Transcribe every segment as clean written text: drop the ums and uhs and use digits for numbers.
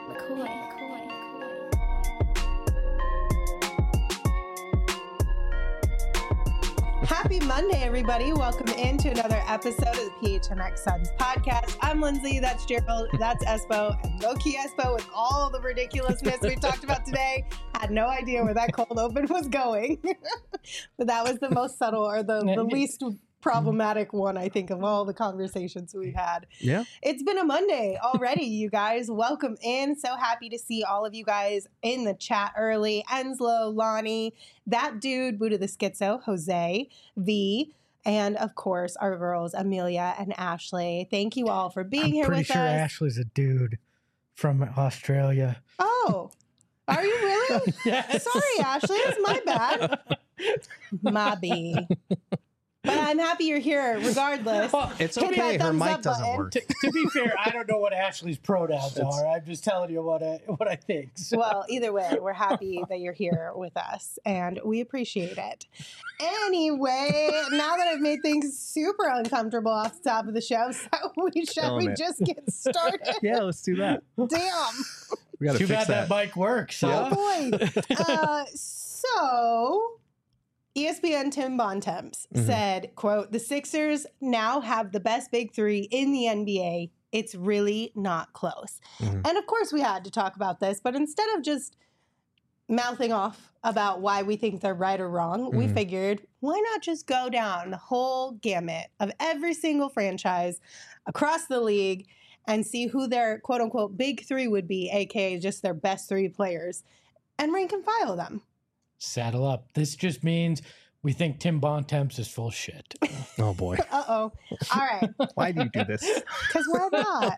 Happy Monday, everybody. Welcome into another episode of the PHNX Suns podcast. I'm Lindsay, that's Gerald, that's Espo, and Loki Espo with all the ridiculousness we've talked about today. Had no idea where that cold open was going. But that was the most subtle or the least problematic one, I think, of all the conversations we've had. Yeah. It's been a Monday already, you guys. Welcome in. So happy to see all of you guys in the chat early. Enslow, Lonnie, that dude, Buddha the Schizo, Jose, V, and of course, our girls, Amelia and Ashley. Thank you all for being here with us. I'm pretty sure Ashley's a dude from Australia. Oh, are you really? Yes. Sorry, Ashley. It's my bad. My B. But I'm happy you're here regardless. Well, It's Hit okay. that Her thumbs mic up doesn't button. work. to be fair, I don't know what Ashley's pronouns are. I'm just telling you what I think. So. Well, either way, we're happy that you're here with us, and we appreciate it. Anyway, now that I've made things super uncomfortable off the top of the show, shall we just get started? Yeah, let's do that. Damn. We gotta Too fix bad that mic works, huh? Oh, boy. So... ESPN Tim Bontemps said, quote, "The Sixers now have the best big three in the NBA. It's really not close." And of course we had to talk about this, but instead of just mouthing off about why we think they're right or wrong, we figured, why not just go down the whole gamut of every single franchise across the league and see who their quote unquote big three would be, aka just their best three players, and rank and file them. Saddle up. This just means we think Tim Bontemps is full shit. Oh boy. Uh-oh. All right. Why do you do this? Because why not?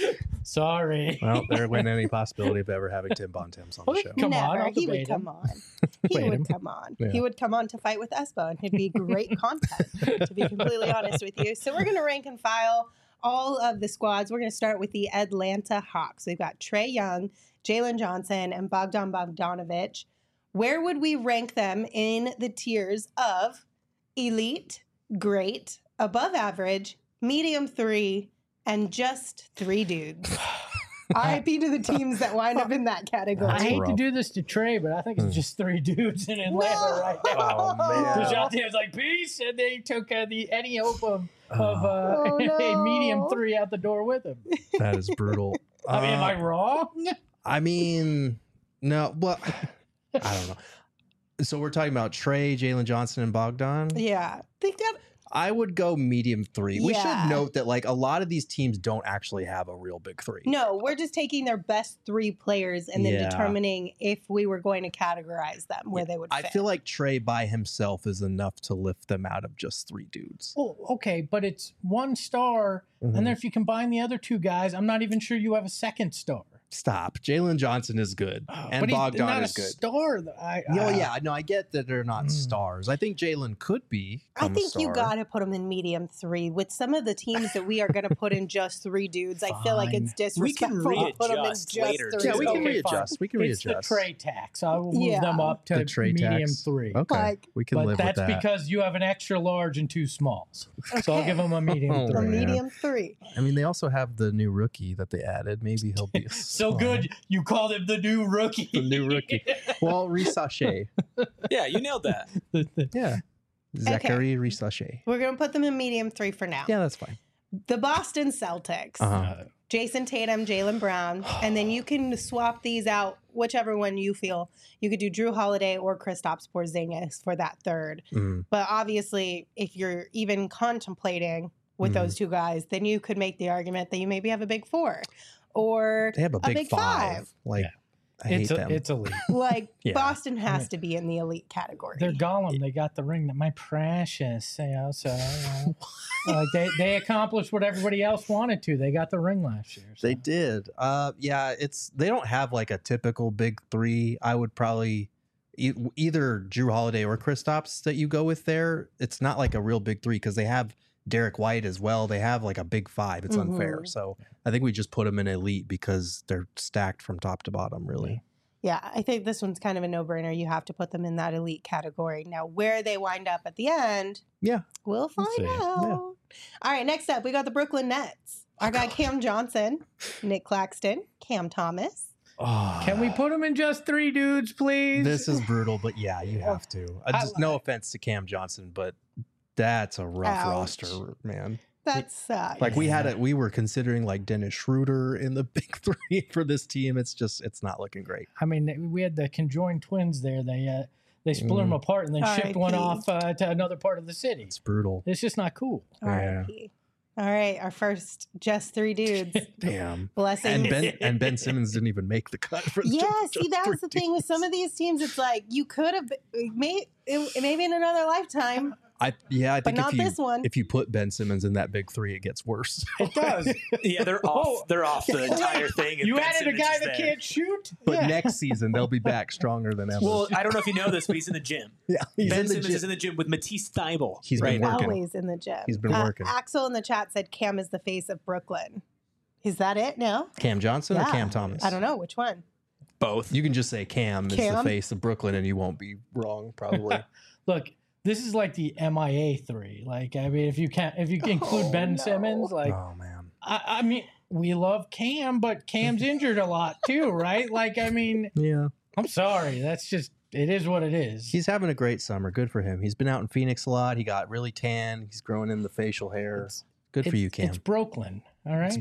Sorry. Well, there went any possibility of ever having Tim Bontemps on the show. Come on, Never. I'll He would debate him. come on. He Debate would him. come on. Yeah. He would come on to fight with Espo, and he'd be great content, to be completely honest with you. So we're going to rank and file all of the squads. We're going to start with the Atlanta Hawks. We've got Trae Young, Jalen Johnson, and Bogdan Bogdanovic. Where would we rank them in the tiers of elite, great, above average, medium three, and just three dudes? RIP to the teams that wind up in that category. I hate to rough. do this to Trey, but I think it's just three dudes in Atlanta right now. Oh, man. Because out there was like, peace, and they took any hope of Oh, a no. medium three out the door with him. That is brutal. I mean, am I wrong? I mean, no. Well, I don't know. So we're talking about Trae, Jalen Johnson, and Bogdan. Yeah. Think that. I would go medium three. We Yeah. should note that like a lot of these teams don't actually have a real big three. No, we're just taking their best three players and then Yeah. determining if we were going to categorize them where they would I fit. feel like Trae by himself is enough to lift them out of just three dudes. Well, okay, but it's one star, and then if you combine the other two guys, I'm not even sure you have a second star. Stop. Jalen Johnson is good, and but he's Bogdan not is a good. star. Yeah, no, I get that they're not stars. I think Jalen could be. I think you got to put them in medium three. With some of the teams that we are going to put in just three dudes, I feel like it's disrespectful to put them in readjust just later, three. Yeah, we can Okay, readjust. fine. We can It's readjust. the Trey tax. I will move Yeah. them up to The Trae medium tax. three. Okay, Like- we can But live that's with that. because you have an extra large and two smalls. So I'll Okay. give them a medium Oh, A three. man. medium three. I mean, they also have the new rookie that they added. Maybe he'll be So good, you called him the new rookie. The new rookie. Well, Risache. Yeah, you nailed that. Yeah. Zachary Risache. We're going to put them in medium three for now. Yeah, that's fine. The Boston Celtics. Uh-huh. Jason Tatum, Jaylen Brown, and then you can swap these out, whichever one you feel. You could do Drew Holiday or Kristaps Porzingis for that third. Mm. But obviously, if you're even contemplating with those two guys, then you could make the argument that you maybe have a big four or They have a big, big five. Like, Yeah. I hate them. It's elite. Like Yeah. Boston has to be in the elite category. They're Gollum. They got the ring. That my precious. You know, so they accomplished what everybody else wanted to. They got the ring last year. So. They did. Yeah, they don't have like a typical big three. I would probably either Drew Holiday or Kristaps that you go with there. It's not like a real big three because they have Derek White as well. They have like a big five. It's unfair. So I think we just put them in elite because they're stacked from top to bottom, really. Yeah, I think this one's kind of a no-brainer. You have to put them in that elite category. Now, where they wind up at the end, Yeah. we'll find see. out. Yeah. All right, next up, we got the Brooklyn Nets. Our guy Cam Johnson, Nick Claxton, Cam Thomas, Can we put him in just 3 dudes, please? This is brutal, but yeah, you have to. No offense to Cam Johnson, but that's a rough Ouch. roster, man. That sucks. Like we were considering like Dennis Schroeder in the big 3 for this team. It's not looking great. I mean, we had the conjoined twins there. They split them apart and then shipped one off to another part of the city. It's brutal. It's just not cool. R.I.P. All right, our first just 3 dudes. Damn. Blessings. And Ben Simmons didn't even make the cut for the Yeah, see, that was the thing with some of these teams. It's like you could have maybe in another lifetime. I think not this one. if you put Ben Simmons in that big 3, it gets worse. It does. Yeah, they're off. They're off the entire thing. and You Ben added a Simmons guy is that there. can't shoot? But Yeah. next season they'll be back stronger than ever. Well, I don't know if you know this, but he's in the gym. yeah, he's Ben in the Simmons gym. is in the gym with Matisse Thybulle. He's right been now. working. Always in the gym. He's been working. Axel in the chat said Cam is the face of Brooklyn. Is that it? No? Cam Johnson or Yeah. Cam Thomas? I don't know. Which one? Both. You can just say Cam is the Cam? face of Brooklyn, and you won't be wrong, probably. Look, this is like the MIA 3. Like, I mean, if you include Ben Simmons, like, Oh man. I mean, we love Cam, but Cam's injured a lot too, right? Like, I mean, Yeah. I'm sorry. That's just, it is what it is. He's having a great summer. Good for him. He's been out in Phoenix a lot. He got really tan. He's growing in the facial hair. Good for you, Cam. It's Brooklyn, all right?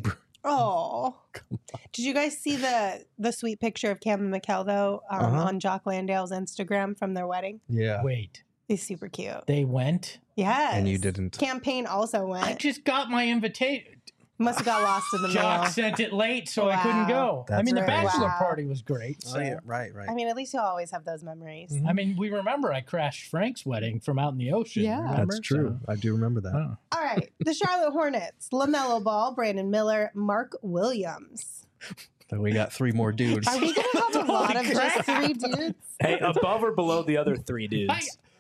Oh. Did you guys see the sweet picture of Cam and Mikkel, though, on Jock Landale's Instagram from their wedding? Yeah. Wait, He's super cute. they went? Yes. And you didn't. Campaign also I went. just got my invitation. Must have got lost in the Jock mail. sent it late, so I couldn't go. I That's mean, the right. bachelor Wow. party was great. So. Oh, yeah. Right. I mean, at least you'll always have those memories. Mhm. I mean, we remember I crashed Frank's wedding from out in the ocean. Yeah. remember? That's true. I do remember that. So, oh. All right. The Charlotte Hornets, LaMelo Ball, Brandon Miller, Mark Williams. Then we got 3 more dudes. Are we going to have a lot of just 3 dudes? Hey, above or below the other 3 dudes?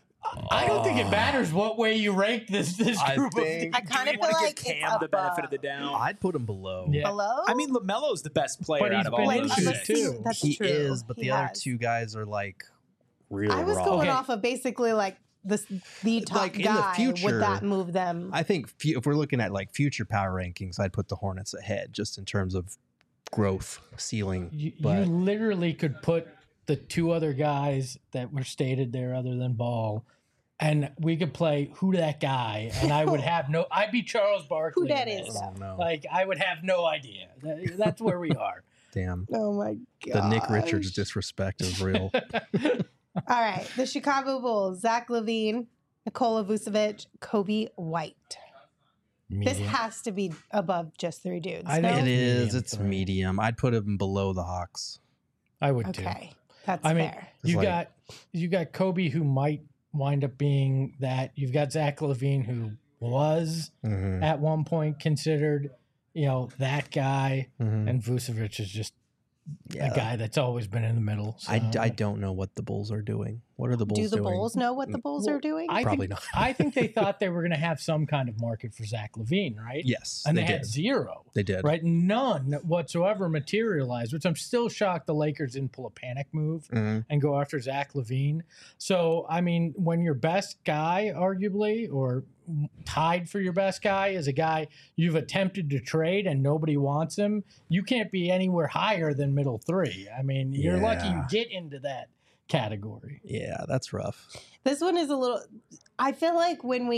I don't think it matters what way you rank this I group think- I kind Do of we feel wanna like give Cam it's the benefit of the above. doubt? I'd put him below. Yeah. Below? I mean, LaMelo's the best player But out he's of all been like, those injured, let's guys. see. too. That's He true. is, but He the other has. 2 guys are like real I was raw. going Okay. off of basically like the top Like, in the guy. future, Would that move them? I think if we're looking at like future power rankings, I'd put the Hornets ahead just in terms of growth ceiling. You But literally could put the 2 other guys that were stated there other than Ball, and we could play who that guy, and I would have no. I'd be Charles Barkley. Who that in is? this. I don't know. Like I would have no idea. That's where we are. Damn. Oh my god. The Nick Richards disrespect is real. All right. The Chicago Bulls, Zach LaVine, Nikola Vucevic, Kobe White. This Medium. has to be above just 3 dudes. I no? think It is. medium It's for me. medium. I'd put him below the Hawks. I would too. Okay. That's I mean, fair. It's you like- got Kobe who might wind up being that. You've got Zach LaVine who was Mhm. at one point considered, that guy, Mhm. and Vucevic is just Yeah. a guy that's always been in the middle. So. I don't know what the Bulls are doing. What are the Bulls Do the doing? Bulls know what the Bulls Well, are doing? I Probably think, not. I think they thought they were going to have some kind of market for Zach LaVine, right? Yes, And they they had did. 0. They did. Right? None whatsoever materialized, which I'm still shocked the Lakers didn't pull a panic move Mhm. and go after Zach LaVine. So, I mean, when your best guy, arguably, or tied for your best guy, is a guy you've attempted to trade and nobody wants him, you can't be anywhere higher than middle 3. I mean, you're lucky you Yeah. get into that category. Yeah, that's rough. This one is a little. I feel like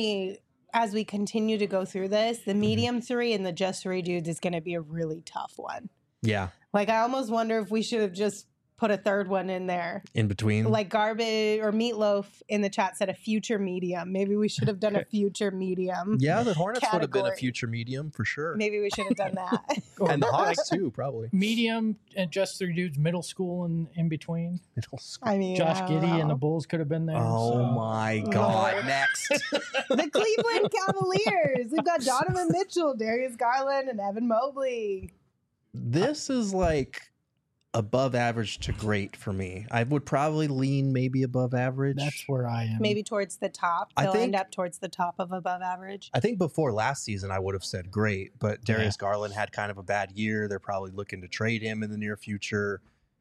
as we continue to go through this, Mm-hmm. the medium 3 and the just 3 dudes is going to be a really tough one. Yeah, Like, I almost wonder if we should have just put a third one in there. in between. Like Garbage or Meatloaf in the chat said a future medium. Maybe we should have done a future medium. Yeah, the Hornets would have been a category. future medium for sure. Maybe we should have done that. And the Hawks too, probably. Medium and just 3 dudes, middle school and in between. Middle school. I mean, Josh I don't Giddey and the know. Bulls could have been there. Oh so. my God! Lord. Next. The Cleveland Cavaliers. We've got Donovan Mitchell, Darius Garland, and Evan Mobley. This is like above average to great for me. I would probably lean maybe above average. That's where I am. Maybe towards the top. I They'll think- end up towards the top of above average. I think before last season, I would have said great, but Darius Garland had kind of a bad year. They're probably looking to trade him in the near future.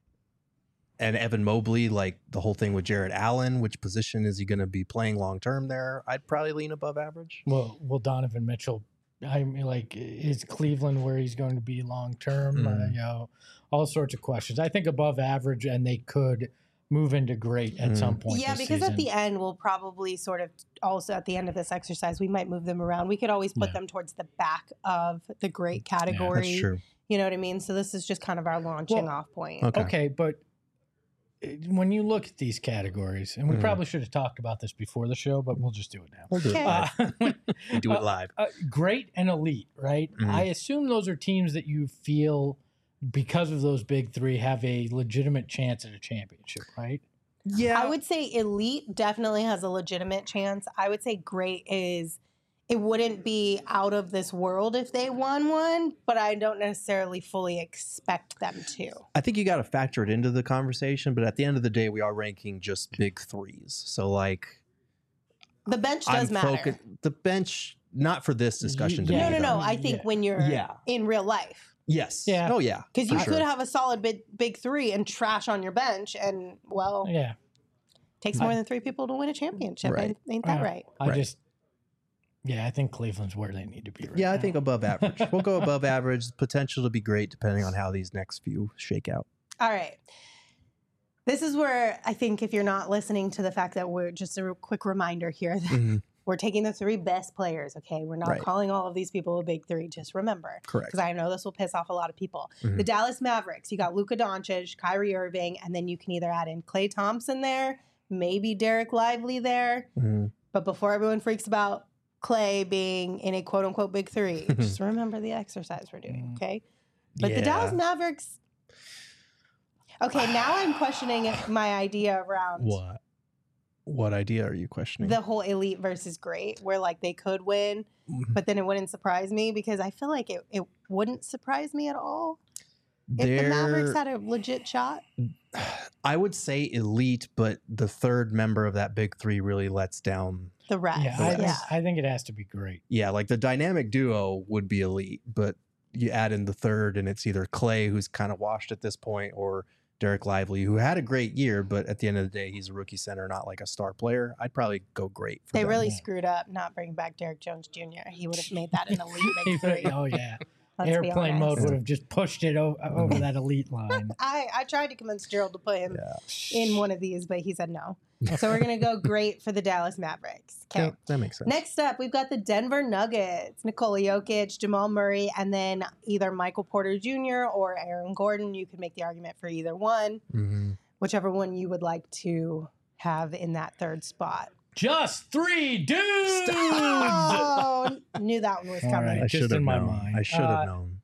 And Evan Mobley, like the whole thing with Jarrett Allen, which position is he going to be playing long term there? I'd probably lean above average. Will Donovan Mitchell I mean, like, is Cleveland where he's going to be long term? All sorts of questions. I think above average, and they could move into great at some point. Yeah, this because season. at the end, we'll probably sort of also at the end of this exercise, we might move them around. We could always put them towards the back of the great category. That's true. You know what I mean? So this is just kind of our launching off point. Okay, but when you look at these categories, and we probably should have talked about this before the show, but we'll just do it now. We'll do it live. We do it live. Great and elite, right? I assume those are teams that you feel, because of those big three, have a legitimate chance at a championship, right? Yeah. I would say elite definitely has a legitimate chance. I would say great is, it wouldn't be out of this world if they won one, but I don't necessarily fully expect them to. I think you got to factor it into the conversation, but at the end of the day, we are ranking just big threes. So, like, The bench does matter. The bench, not for this discussion. Yeah. to me, No. though. I think when you're in real life. Yes. Yeah. Oh, yeah. Because you for could sure. have a solid big three and trash on your bench, and, well, Yeah. takes more than three people to win a championship. Right. Ain't that right? I think Cleveland's where they need to be right Yeah, now. I think above average. We'll go above average. Potential to be great depending on how these next few shake out. All right. This is where I think, if you're not listening to the fact that we're just a quick reminder here that we're taking the three best players, okay? We're not Right. calling all of these people a big three. Just remember. Correct. Because I know this will piss off a lot of people. The Dallas Mavericks, you got Luka Doncic, Kyrie Irving, and then you can either add in Klay Thompson there, maybe Derek Lively there. But before everyone freaks about Klay being in a quote-unquote big three, just remember the exercise we're doing, okay? But the Dallas Mavericks... Okay, now I'm questioning my idea around What idea are you questioning? the whole elite versus great, where, like, they could win, but then it wouldn't surprise me, because I feel like it wouldn't surprise me at all if the Mavericks had a legit shot. I would say elite, but the third member of that big three really lets down. The rest. Yeah, I think it has to be great. Yeah, like the dynamic duo would be elite, but you add in the third, and it's either Klay, who's kind of washed at this point, or Derek Lively, who had a great year, but at the end of the day, he's a rookie center, not like a star player. I'd probably go great for They them. really screwed up not bringing back Derek Jones Jr. He would have made that an elite big three. Oh, yeah. Let's be Airplane honest. mode would have just pushed it over that elite line. I tried to convince Gerald to put him in one of these, but he said no. So we're going to go great for the Dallas Mavericks. Okay. Yeah, that makes sense. Next up, we've got the Denver Nuggets, Nikola Jokic, Jamal Murray, and then either Michael Porter Jr. or Aaron Gordon. You could make the argument for either one, whichever one you would like to have in that third spot. Just three dudes! Oh, knew that one was coming. right. I Just should have in my known. mind. I should have known.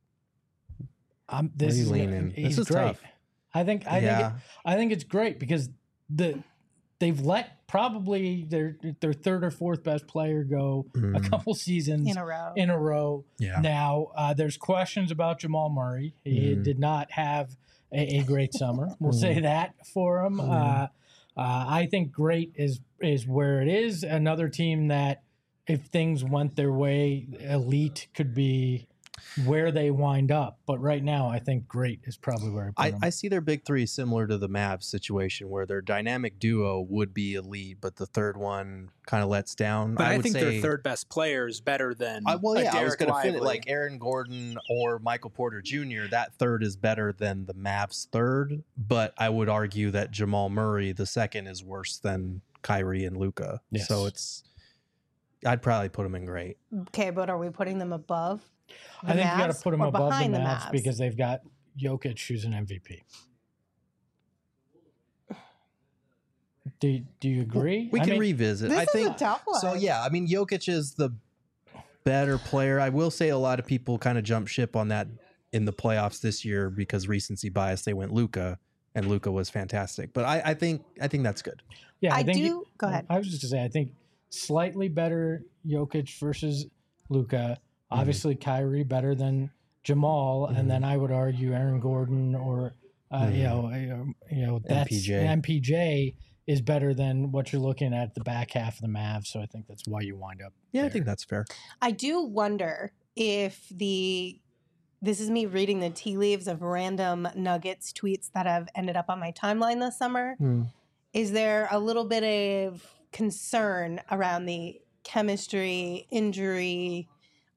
This Where you is leaning? he's This is great. tough. I think it's great because they've let probably their third or fourth best player go a couple seasons In a row. In a row. Yeah. Now there's questions about Jamal Murray. He did not have a great summer. We'll say that for him. I think great is where it is. Another team that, if things went their way, elite could be where they wind up. But right now, I think great is probably where I put them. I see their big three similar to the Mavs situation, where their dynamic duo would be elite, but the third one kind of lets down. But I would think say, their third best player is better than I was Derek going to finish Lively. like Aaron Gordon or Michael Porter Jr. That third is better than the Mavs third, but I would argue that Jamal Murray, the second, is worse than Kyrie and Luka. Yes. So I'd probably put them in great. Okay, but are we putting them above? I think you got to Mavs put them or above the behind Mavs because they've got Jokic, who's an MVP. Do you agree? We can revisit. This I is think a tough one. so. Yeah, I mean, Jokic is the better player. I will say a lot of people kind of jump ship on that in the playoffs this year because recency bias. They went Luka, and Luka was fantastic. But I think that's good. Yeah, I think do. Go ahead. I was just going to say, I think slightly better Jokic versus Luka. Obviously, Kyrie better than Jamal, and then I would argue Aaron Gordon or that's MPJ is better than what you're looking at the back half of the Mavs. So I think that's why you wind up. Yeah, I there. think that's fair. I do wonder if this is me reading the tea leaves of random Nuggets tweets that have ended up on my timeline this summer. Is there a little bit of concern around the chemistry, injury,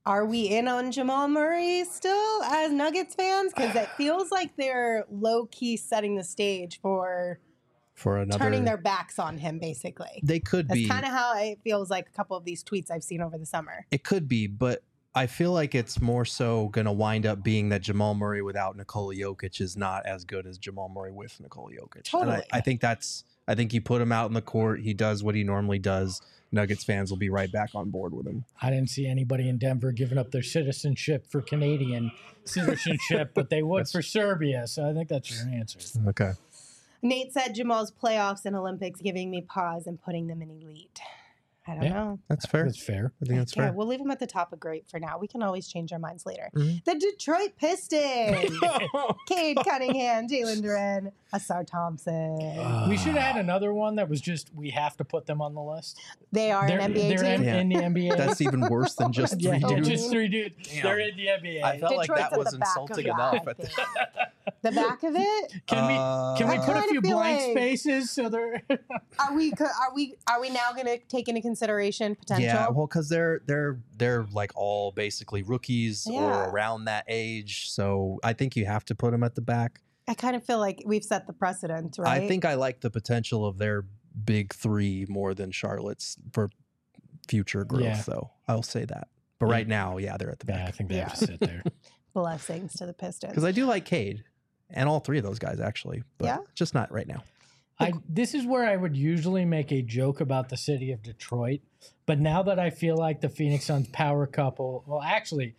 Are we in on Jamal Murray still as Nuggets fans? Because it feels like they're low key setting the stage for another. turning their backs on him, basically. They could That's be. kind of how it feels like a couple of these tweets I've seen over the summer. It could be, but I feel like it's more so going to wind up being that Jamal Murray without Nikola Jokic is not as good as Jamal Murray with Nikola Jokic. Totally. And I think you put him out in the court, he does what he normally does. Nuggets fans will be right back on board with him. I didn't see anybody in Denver giving up their citizenship for Canadian citizenship, but they would for Serbia. So I think that's your answer. Okay. Nate said Jamal's playoffs and Olympics giving me pause and putting them in elite. I don't know. That's fair. That's fair. I think that's Yeah, fair. we'll leave him at the top of great for now. We can always change our minds later. Mhm. The Detroit Pistons. Cade Cunningham, Jalen Duren, Asar Thompson. We should have had another one that was just we have to put them on the list. They are an NBA they're team. in the NBA. That's even worse than just yeah, three Oh, dudes. just 3 dudes. Damn. They're in the NBA. I felt like Detroit's that at was the back of insulting that, enough. I think. The back of it? Can we I put a kinda few feel blank like- spaces so they're Are we now going to take into consideration potential? Yeah, well, because they're like all basically rookies Yeah. or around that age, so I think you have to put them at the back. I kind of feel like we've set the precedent, right? I think I like the potential of their big three more than Charlotte's for future growth, Yeah. though. I'll say that. But right now, yeah, they're at the yeah, I back. think they have to sit there. Blessings to the Pistons. Because I do like Cade and all three of those guys actually, but Yeah? just not right now. This is where I would usually make a joke about the city of Detroit, but now that I feel like the Phoenix Suns power couple, well, actually,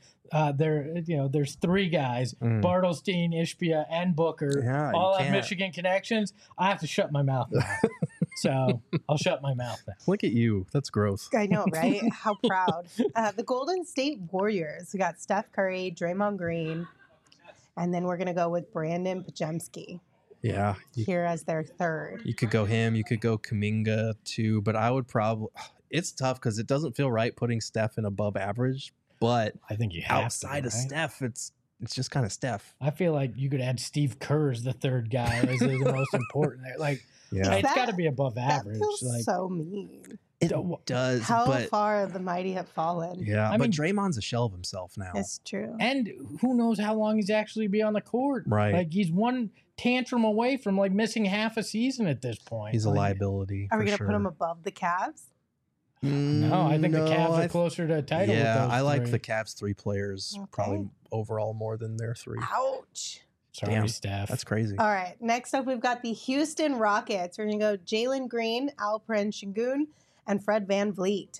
there's 3 guys: Bartelstein, Ishbia, and Booker, Yeah, you all have can't. Michigan connections. I have to shut my mouth now, so I'll shut my mouth now. Look at you. That's gross. I know, right? How proud. The Golden State Warriors. We got Steph Curry, Draymond Green, and then we're going to go with Brandon Pajemski Yeah. here as their third. You could go him. You could go Kuminga too, but I would probably. It's tough because it doesn't feel right putting Steph in above average. But I think you have outside to, of right? Steph, it's just kind of Steph. I feel like you could add Steve Kerr as the third guy as the most important there. Like, Yeah, it's That- got to be above That average. feels Like, so mean. it does. How but far the mighty have fallen. yeah, I but mean- Draymond's a shell of himself now. It's true. and who knows how long he's actually be on the court? Right. Like he's one tantrum away from like missing half a season at this point. He's a Like, liability. Are we for going to sure. put him above the Cavs? No, I think the Cavs are I closer to a title. Yeah, with those I like 3. the Cavs 3 players Okay. probably overall more than their 3. Ouch. Sorry, Damn, Steph. That's crazy. All right. Next up, we've got the Houston Rockets. We're going to go Jalen Green, Alperen Şengün, and Fred Van Vliet.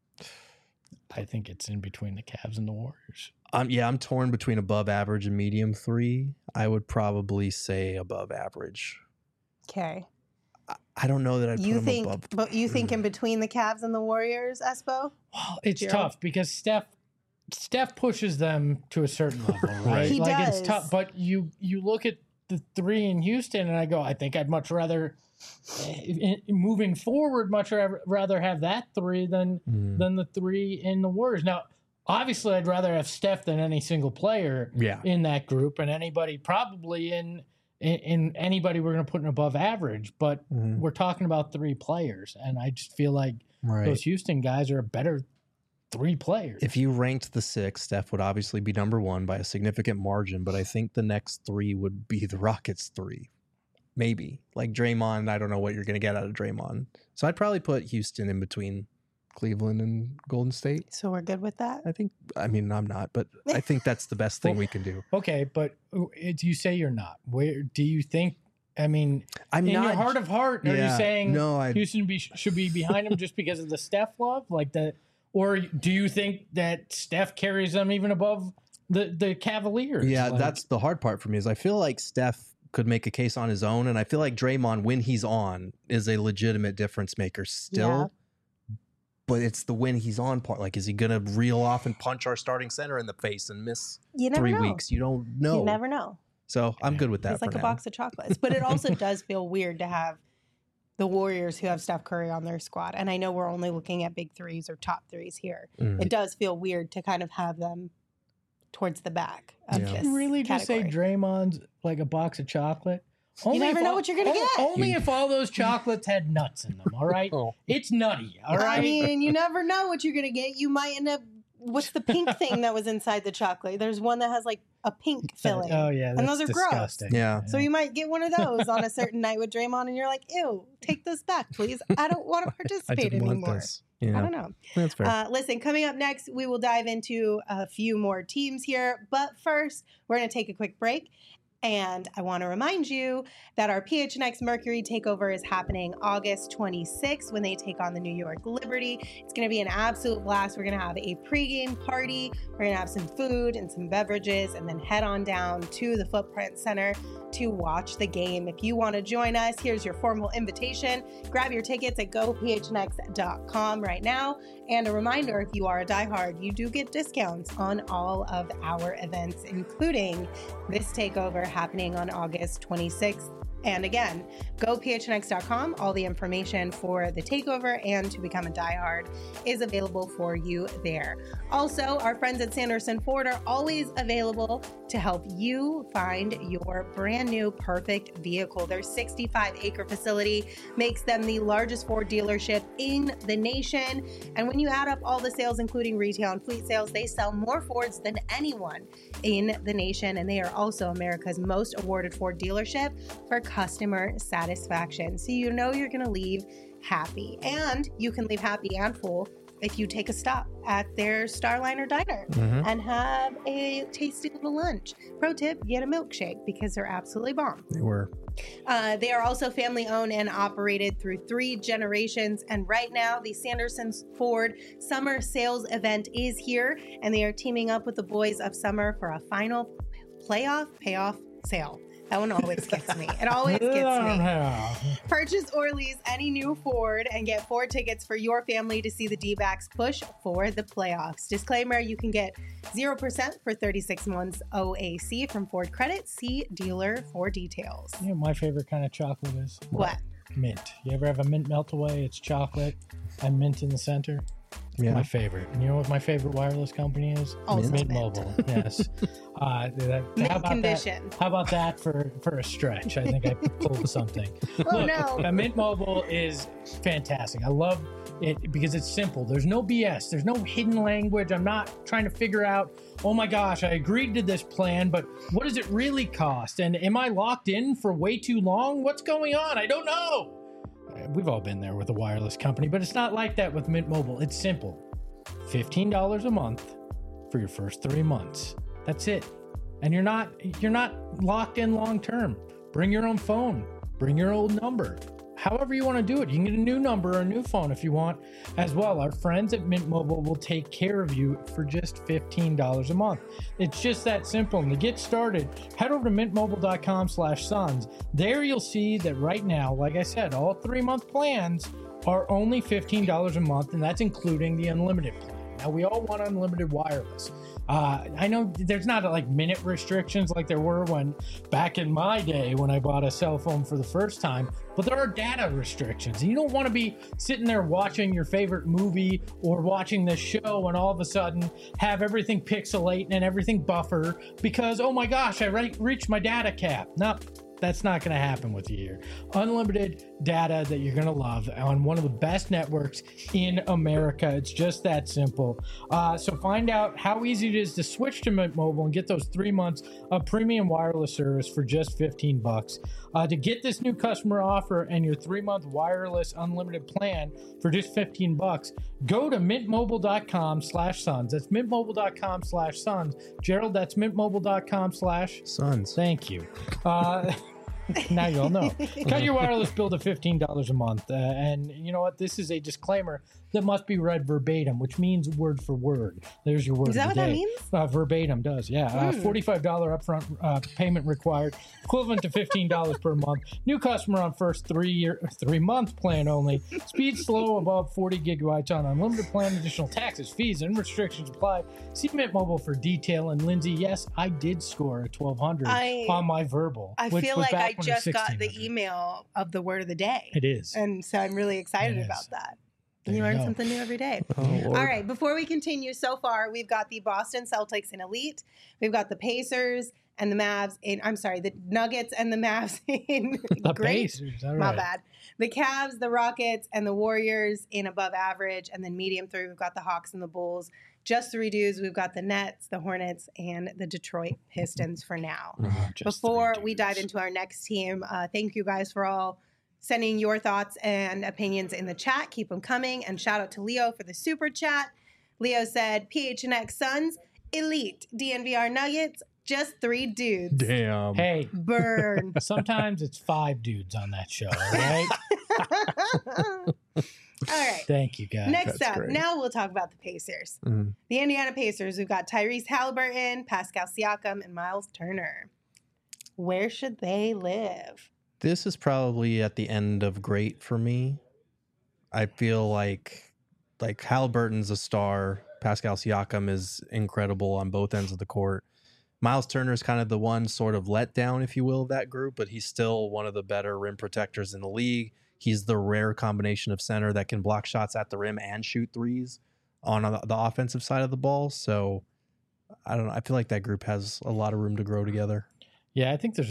I think it's in between the Cavs and the Warriors. I'm torn between above average and medium 3. I would probably say above average. Okay. I don't know that I'd You put think, him above. but you think in between the Cavs and the Warriors, Espo? Well, it's Gerald? tough because Steph pushes them to a certain level, right? Right. He like does. it's tough. But you look at the 3 in Houston, and I go, I think I'd much rather moving forward, much rather have that 3 than the 3 in the Warriors. Now, obviously, I'd rather have Steph than any single player Yeah. in that group, and anybody probably in anybody we're going to put in above average. But Mhm. we're talking about 3 players, and I just feel like Right. those Houston guys are a better 3 players. If you ranked the 6, Steph would obviously be number 1 by a significant margin, but I think the next 3 would be the Rockets 3. Maybe. Like Draymond, I don't know what you're going to get out of Draymond. So I'd probably put Houston in between Cleveland and Golden State. So we're good with that? I'm not, but I think that's the best thing we can do. Okay, but you say you're not. Where do you think? I mean, I'm in not. your heart of heart, are you Yeah, saying no, Houston should be behind him just because of the Steph love, like that, or do you think that Steph carries them even above the Cavaliers? Yeah, Like, that's the hard part for me is I feel like Steph could make a case on his own, and I feel like Draymond, when he's on, is a legitimate difference maker still. Yeah. But it's the when he's on part. Like, is he going to reel off and punch our starting center in the face and miss You never 3 know. weeks? You don't know. You never know. So I'm good with that It's for like a now. box of chocolates. But it also does feel weird to have the Warriors who have Steph Curry on their squad. And I know we're only looking at big 3s or top 3s here. Mm. It does feel weird to kind of have them towards the back of Yeah. this you really just category. say Draymond's like a box of chocolate? You never if know all- what you're gonna get. Only if all those chocolates had nuts in them. All right, Oh. it's nutty. All right. I mean, you never know what you're going to get. You might end up what's the pink thing that was inside the chocolate? There's one that has like a pink filling. Oh yeah, and those are disgusting. gross. Yeah. So you might get one of those on a certain night with Draymond, and you're like, "Ew, take this back, please. I don't want to I participate didn't want anymore." this. Yeah. I don't know. That's fair. Listen, coming up next, we will dive into a few more teams here. But first, we're going to take a quick break. And I want to remind you that our PHNX Mercury takeover is happening August 26th when they take on the New York Liberty. It's going to be an absolute blast. We're going to have a pregame party. We're going to have some food and some beverages and then head on down to the Footprint Center to watch the game. If you want to join us, here's your formal invitation. Grab your tickets at gophnx.com right now. And a reminder, if you are a diehard, you do get discounts on all of our events, including this takeover happening on August 26th. And again, gophnx.com. All the information for the takeover and to become a diehard is available for you there. Also, our friends at Sanderson Ford are always available to help you find your brand new perfect vehicle. Their 65-acre facility makes them the largest Ford dealership in the nation. And when you add up all the sales, including retail and fleet sales, they sell more Fords than anyone in the nation. And they are also America's most awarded Ford dealership for customer satisfaction. So you know you're going to leave happy. And you can leave happy and full if you take a stop at their Starliner Diner and have a tasty little lunch. Pro tip, get a milkshake because they're absolutely bomb. They were. They are also family owned and operated through 3 generations. And right now, the Sanderson Ford Summer Sales event is here, and they are teaming up with the Boys of Summer for a final payoff sale. That one always gets me. It always gets me. Purchase or lease any new Ford and get 4 tickets for your family to see the D-backs push for the playoffs. Disclaimer, you can get 0% for 36 months OAC from Ford Credit. See dealer for details. You know what my favorite kind of chocolate is? What? Mint. You ever have a mint melt away? It's chocolate and mint in the center. Yeah. My favorite. And you know what my favorite wireless company is? Also Mint Mint. Mobile. Yes. Mint how about condition. That? How about that for a stretch? I think I pulled something. Oh, Look, no. Mint Mobile is fantastic. I love it because it's simple. There's no BS. There's no hidden language. I'm not trying to figure out, oh my gosh, I agreed to this plan, but what does it really cost? And am I locked in for way too long? What's going on? I don't know. We've all been there with a wireless company, but it's not like that with Mint Mobile. It's simple. $15 a month for your first 3 months. That's it. And you're not locked in long term. Bring your own phone. Bring your old number. However you want to do it. You can get a new number or a new phone if you want as well. Our friends at Mint Mobile will take care of you for just $15 a month. It's just that simple. And to get started, head over to mintmobile.com/sons. There you'll see that right now, like I said, all 3-month plans are only $15 a month, and that's including the unlimited plan. Now, we all want unlimited wireless. I know there's not like minute restrictions like there were when back in my day when I bought a cell phone for the first time, but there are data restrictions. You don't want to be sitting there watching your favorite movie or watching this show and all of a sudden have everything pixelate and everything buffer because, oh my gosh, I reached my data cap. No. That's not going to happen with you here. Unlimited data that you're going to love on one of the best networks in America. It's just that simple. So find out how easy it is to switch to Mint Mobile and get those 3 months of premium wireless service for just $15. To get this new customer offer and your 3-month wireless unlimited plan for just $15, go to mintmobile.com/sons. That's mintmobile.com/sons. Gerald, that's mintmobile.com/ Sons. Thank you. Now you all know. Cut your wireless bill to $15 a month. And you know what? This is a disclaimer that must be read verbatim, which means word for word. There's your word. Is that what that means? Verbatim does, yeah. $45 upfront payment required, equivalent to $15 per month. New customer on first 3-month plan only. Speed slow above 40 gigabytes on unlimited plan. Additional taxes, fees, and restrictions apply. See Mint Mobile for detail. And Lindsay, yes, I did score a 1200 on my verbal. I which feel was like back I when it was just got the 1600. email of the word of the day. It is. And so I'm really excited It is. about that. There You you learn go. something new every day. Oh, Lord. All right, before we continue, so far we've got the Boston Celtics in Elite. We've got the Pacers and the Mavs in, I'm sorry, the Nuggets and the Mavs in The great. Pacers. All My right. bad. The Cavs, the Rockets, and the Warriors in above average. And then medium 3, we've got the Hawks and the Bulls. just 3 dudes. We've got the Nets, the Hornets, and the Detroit Pistons for now. Just Before 3 we dive dudes. into our next team, thank you guys for all sending your thoughts and opinions in the chat. Keep them coming. And shout out to Leo for the super chat. Leo said, PHNX Suns, elite. DNVR Nuggets, just 3 dudes. Damn. Hey, Burn. sometimes it's 5 dudes on that show, all right? All right. Thank you, guys. Next That's up, great. now we'll talk about the Pacers. Mhm. The Indiana Pacers, we've got Tyrese Halliburton, Pascal Siakam, and Miles Turner. Where should they live? This is probably at the end of great for me. I feel like Halliburton's a star. Pascal Siakam is incredible on both ends of the court. Miles Turner is kind of the one sort of letdown, if you will, of that group, but he's still one of the better rim protectors in the league. He's the rare combination of center that can block shots at the rim and shoot threes on the offensive side of the ball. So I don't know. I feel like that group has a lot of room to grow together. Yeah, I think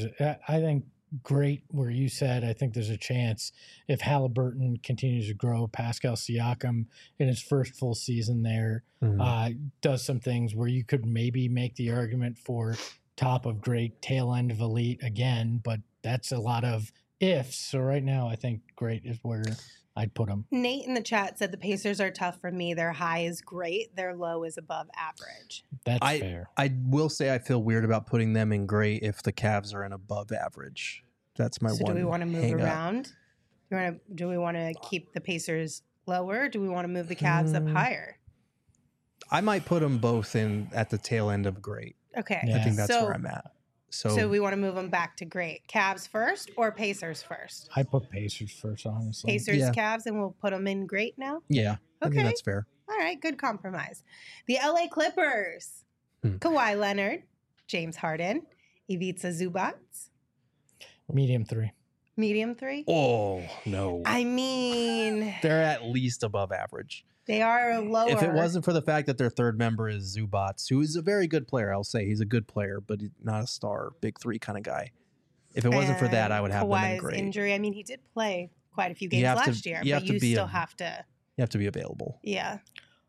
great where you said, I think there's a chance if Halliburton continues to grow, Pascal Siakam in his first full season there does some things where you could maybe make the argument for top of great, tail end of elite again, but that's a lot of ifs. So right now, I think great is where I'd put them. Nate in the chat said the Pacers are tough for me. Their high is great. Their low is above average. That's fair. I will say I feel weird about putting them in great if the Cavs are in above average. That's my So one. do we want to move hang-up. around? Do we want to keep the Pacers lower? Do we want to move the Cavs up higher? I might put them both in at the tail end of great. Okay. Yeah. I think that's so, where I'm at. So we want to move them back to great. Cavs first or Pacers first? I put Pacers first, honestly. Pacers, Yeah. Cavs, and we'll put them in great now? yeah, I Okay. think that's fair. All right, good compromise. The LA Clippers. Hmm. Kawhi Leonard, James Harden, Ivica Zubac, Medium 3. medium 3. Oh no, I mean, they're at least above average. they are lower. If it wasn't for the fact that their third member is Zubats, who is a very good player, I'll say he's a good player, but he's not a star, big 3 kind of guy. If it wasn't for that, I would have them in Kawhi's great. injury. I mean, he did play quite a few You games have to- last year, you have but to you be still a- have to. You have to be available. Yeah.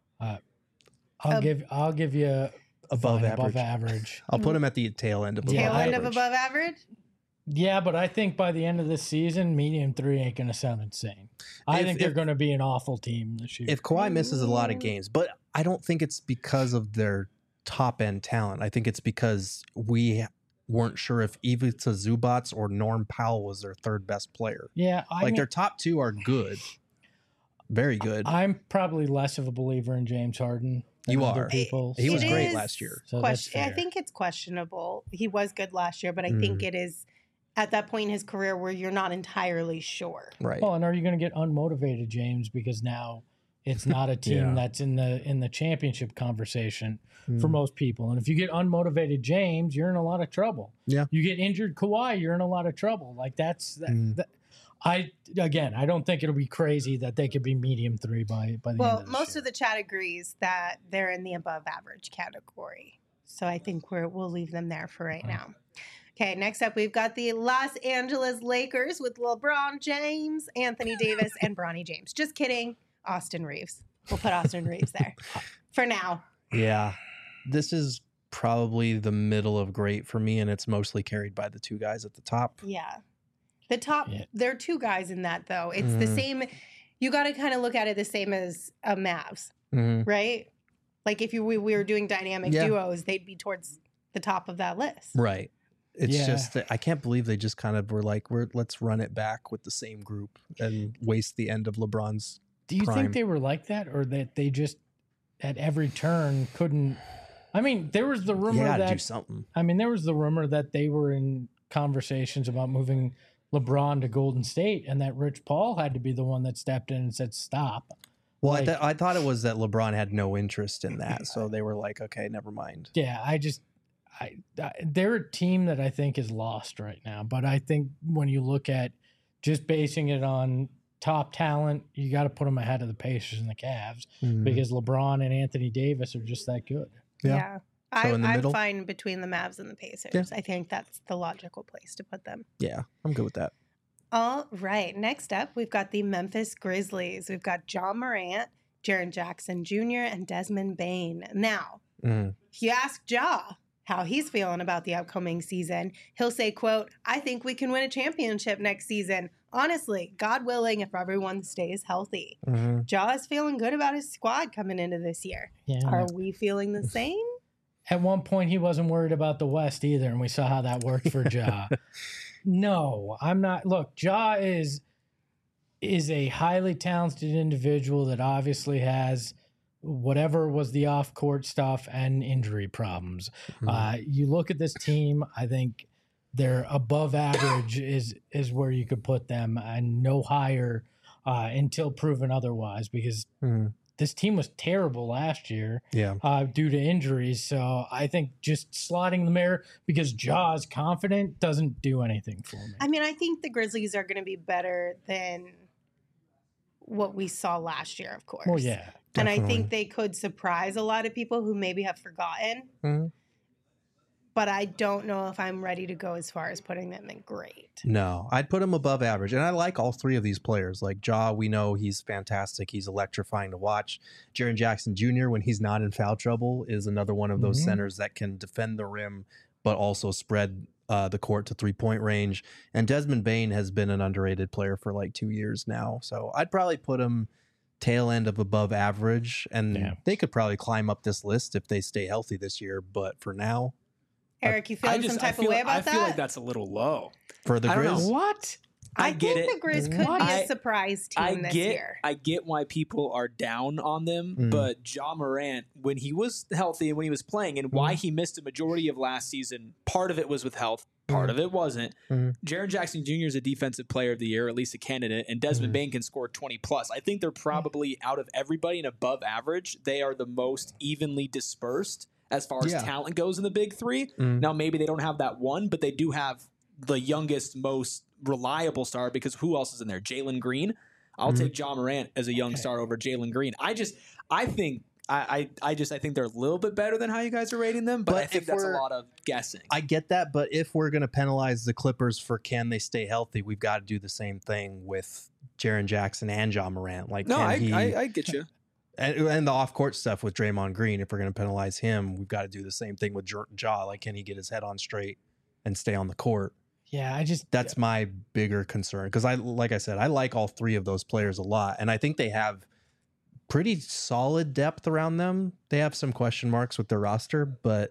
I'll give you Above fine, average. above average. I'll put him at the tail end of above Tail end of average. above average. Yeah, but I think by the end of this season, medium 3 ain't going to sound insane. I think they're if- going to be an awful team this year. If Kawhi misses a lot of games, but I don't think it's because of their top end talent. I think it's because we weren't sure if Ivica Zubac or Norm Powell was their third best player. yeah, Their top 2 are good, very good. I'm probably less of a believer in James Harden. Than You other are. people. He was It great is last year. So that's I fair. think it's questionable. He was good last year, but I think it is at that point in his career where you're not entirely sure. Right. Well, and are you going to get unmotivated, James? Because now it's not a team Yeah. that's in the championship conversation Mm. for most people. And if you get unmotivated, James, you're in a lot of trouble. Yeah. You get injured, Kawhi, you're in a lot of trouble. Like I don't think it'll be crazy that they could be medium 3 by the end Well, of this most year. of the chat agrees that they're in the above average category. So I think we'll leave them there for right now. Okay, next up we've got the Los Angeles Lakers with LeBron James, Anthony Davis, and Bronny James. Just kidding. Austin Reeves. We'll put Austin Reeves there for now. Yeah. This is probably the middle of great for me, and it's mostly carried by the 2 guys at the top. Yeah. The top, Yeah. there are 2 guys in that though. It's the same. You got to kind of look at it the same as a Mavs, Mhm. right? Like if we were doing dynamic Yeah. duos, they'd be towards the top of that list. Right. It's Yeah. just that I can't believe they just kind of were like, let's run it back with the same group and waste the end of LeBron's. Do you prime. think they were like that, or that they just at every turn couldn't? I mean, there was the rumor You got to do that something. they were in conversations about moving LeBron to Golden State, and that Rich Paul had to be the one that stepped in and said stop. Well, Like- I thought it was that LeBron had no interest in that, so they were like, okay, never mind. Yeah, they're a team that I think is lost right now. But I think when you look at just basing it on top talent, you got to put them ahead of the Pacers and the Cavs because LeBron and Anthony Davis are just that good. Yeah. Yeah. So in the I'm middle? fine between the Mavs and the Pacers. Yeah. I think that's the logical place to put them. Yeah, I'm good with that. All right. Next up, we've got the Memphis Grizzlies. We've got John Morant, Jaren Jackson Jr., and Desmond Bain. Now, Mm. if you ask Ja how he's feeling about the upcoming season, he'll say, quote, I think we can win a championship next season. Honestly, God willing, if everyone stays healthy. Mhm. Ja is feeling good about his squad coming into this year. Yeah. Are we feeling the same? At one point, he wasn't worried about the West either, and we saw how that worked for Ja. No, I'm not. Look, Ja is a highly talented individual that obviously has whatever was the off-court stuff and injury problems. Mhm. You look at this team, I think they're above average is where you could put them, and no higher until proven otherwise, because Mhm. this team was terrible last year Yeah. due to injuries. So I think just slotting them there because Ja is confident doesn't do anything for me. I mean, I think the Grizzlies are going to be better than what we saw last year, of course. Well, yeah. And I Definitely. think they could surprise a lot of people who maybe have forgotten. Mhm. But I don't know if I'm ready to go as far as putting them in great. No, I'd put him above average. And I like all three of these players. Like Ja, we know he's fantastic. He's electrifying to watch. Jaren Jackson Jr., when he's not in foul trouble, is another one of those Mhm. centers that can defend the rim, but also spread the court to 3-point range. And Desmond Bain has been an underrated player for like 2 years now. So I'd probably put him tail end of above average. And Yeah. they could probably climb up this list if they stay healthy this year. But for now, Eric, you feeling some type of way about that? I feel like that's a little low. for the I don't know. Grizz, What? I get think it. the Grizz could What? be a surprise team this year. I get why people are down on them, but Ja Morant, when he was healthy and when he was playing, and why he missed a majority of last season, part of it was with health, part of it wasn't. Jaren Jackson Jr. is a defensive player of the year, at least a candidate, and Desmond Bain can score 20 plus. I think they're probably out of everybody and above average. They are the most evenly dispersed as far as Yeah. talent goes in the big three. Now, maybe they don't have that one, but they do have the youngest, most reliable star, because who else is in there? Jalen Green. I'll take Ja Morant as a young star over Jalen Green. I think they're a little bit better than how you guys are rating them, but I think if that's a we're- lot of guessing. I get that, but if we're going to penalize the Clippers for can they stay healthy, we've got to do the same thing with Jaren Jackson and Ja Morant. Like, No, can he, I get you. and the off court stuff with Draymond Green. If we're going to penalize him, we've got to do the same thing with Ja. Like, can he get his head on straight and stay on the court? Yeah, That's my bigger concern, because like I said, I like all three of those players a lot, and I think they have pretty solid depth around them. They have some question marks with their roster, but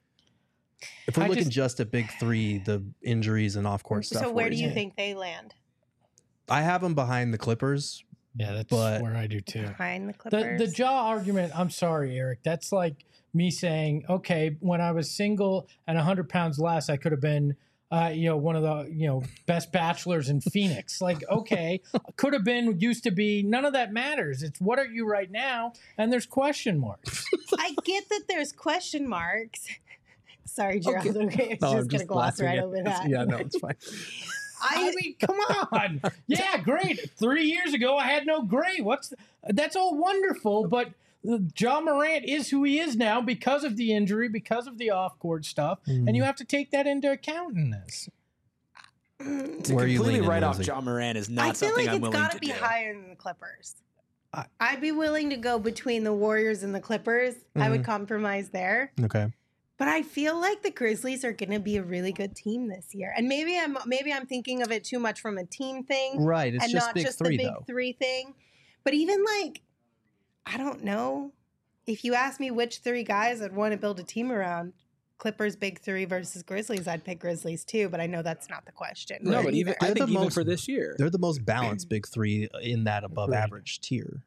if we're looking just at big three, the injuries and off court stuff. So where do you worries me. think they land? I have them behind the Clippers. yeah, that's But- where I do too. Behind the The Clippers? Ja argument, I'm sorry, Eric. That's like me saying, okay, when I was single and 100 pounds less, I could have been, one of the, best bachelors in Phoenix. Like, okay, could have been, used to be. None of that matters. It's what are you right now? And there's question marks. I get that there's question marks. Sorry, Gerald. Okay, I was just going to gloss right over that. Yeah, no, it's fine. I mean, come on. Yeah, great. 3 years ago, I had no great. That's all wonderful, but Ja Morant is who he is now because of the injury, because of the off-court stuff, and you have to take that into account in this. To Where are you completely leaning, write off Lindsay? Ja Morant is I not feel something like I'm it's willing got to to be do. higher than the Clippers. I- I'd be willing to go between the Warriors and the Clippers. I would compromise there. Okay. But I feel like the Grizzlies are going to be a really good team this year. And maybe I'm thinking of it too much from a team thing Right. It's and just not big just three, the big though. three thing. But even like, I don't know. If you ask me which three guys I'd want to build a team around, Clippers big three versus Grizzlies, I'd pick Grizzlies too. But I know that's not the question. No, right, but even either. I They're think the even most- for this year, They're the most balanced big three in that above Agreed. average tier.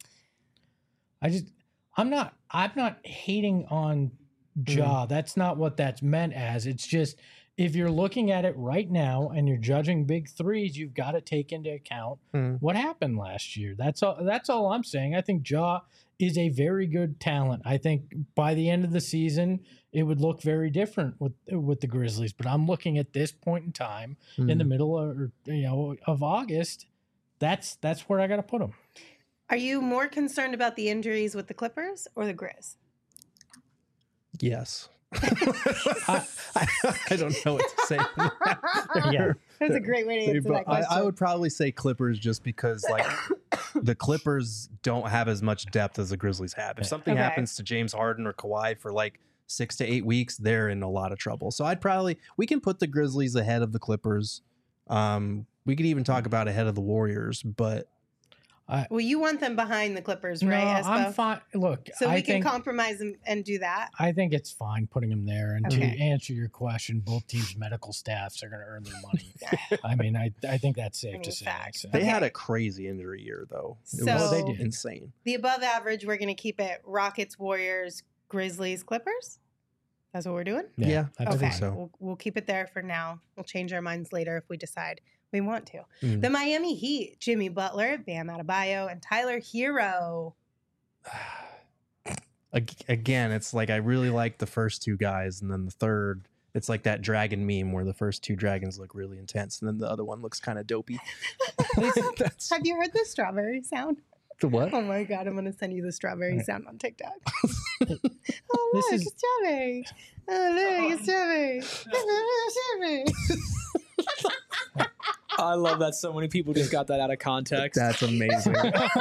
I'm not hating on Ja. That's not what that's meant as. It's just if you're looking at it right now and you're judging big threes, you've got to take into account what happened last year. That's all I'm saying. I think Ja is a very good talent. I think by the end of the season, it would look very different with the Grizzlies. But I'm looking at this point in time in the middle of August. That's where I got to put them. Are you more concerned about the injuries with the Clippers or the Grizz? Yes. I don't know what to say. Yeah. That's a great way to answer that But question. I would probably say Clippers just because, like, the Clippers don't have as much depth as the Grizzlies have. If something Okay. happens to James Harden or Kawhi for like 6 to 8 weeks, they're in a lot of trouble. So we can put the Grizzlies ahead of the Clippers. We could even talk about ahead of the Warriors, but Well, you want them behind the Clippers, No, right? I'm Espo? fine. Look, So we I can think compromise and do that. I think it's fine putting them there. And Okay. to answer your question, both teams' medical staffs are going to earn their money. I mean, I think that's safe to say. facts. So. they had Okay. a crazy injury year, though. It So- was they did. insane. The above average, we're going to keep it Rockets, Warriors, Grizzlies, Clippers. That's what we're doing? Yeah, that's I think fine. so. We'll keep it there for now. We'll change our minds later if we decide we want to. Mm. The Miami Heat, Jimmy Butler, Bam Adebayo, and Tyler Hero. Again, it's like I really like the first two guys, and then the third, it's like that dragon meme where the first two dragons look really intense, and then the other one looks kind of dopey. That's Have you heard the strawberry sound? the what? Oh my God, I'm going to send you the strawberry sound on TikTok. Oh, This look, is- it's strawberry. Oh, look, it's strawberry. Strawberry. I love that so many people just got that out of context. That's amazing.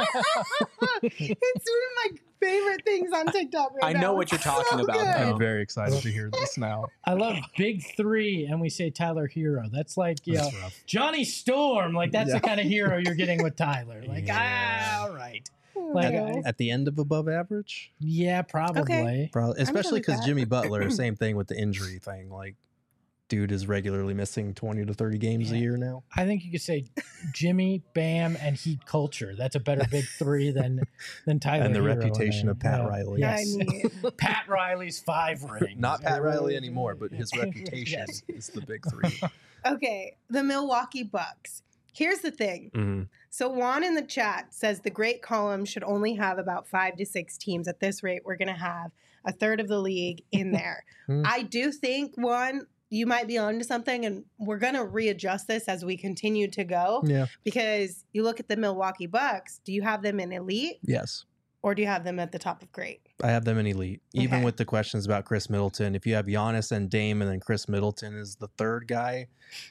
It's one of my favorite things on TikTok right I now. know what you're It's talking so about, good. though. I'm very excited to hear this now. I love Big Three, and we say Tyler Hero. That's like, That's rough. Johnny Storm. Like, that's Yeah. the kind of hero you're getting with Tyler. Like, Yeah. all right. Oh, Like, no. At the end of above average, Yeah, probably. probably, especially with because that. Jimmy Butler, same thing with the injury thing. Like, dude is regularly missing 20 to 30 games a Yeah. year now. I think you could say Jimmy, Bam, and Heat culture. That's a better Big Three than Tyler And the Hero reputation there. of Pat Yeah. Riley. Yes. I mean, Pat Riley's 5 rings. Not Pat Riley anymore, but his reputation Yes. is the big three. okay, the Milwaukee Bucks. Here's the thing. Mhm. So Juan in the chat says the great column should only have about 5 to 6 teams. At this rate, we're going to have a third of the league in there. Hmm. I do think, Juan, you might be onto something, and we're going to readjust this as we continue to go. Yeah. Because you look at the Milwaukee Bucks, do you have them in elite Yes. or do you have them at the top of great? I have them in elite. Even Okay. with the questions about Chris Middleton, if you have Giannis and Dame and then Chris Middleton is the third guy,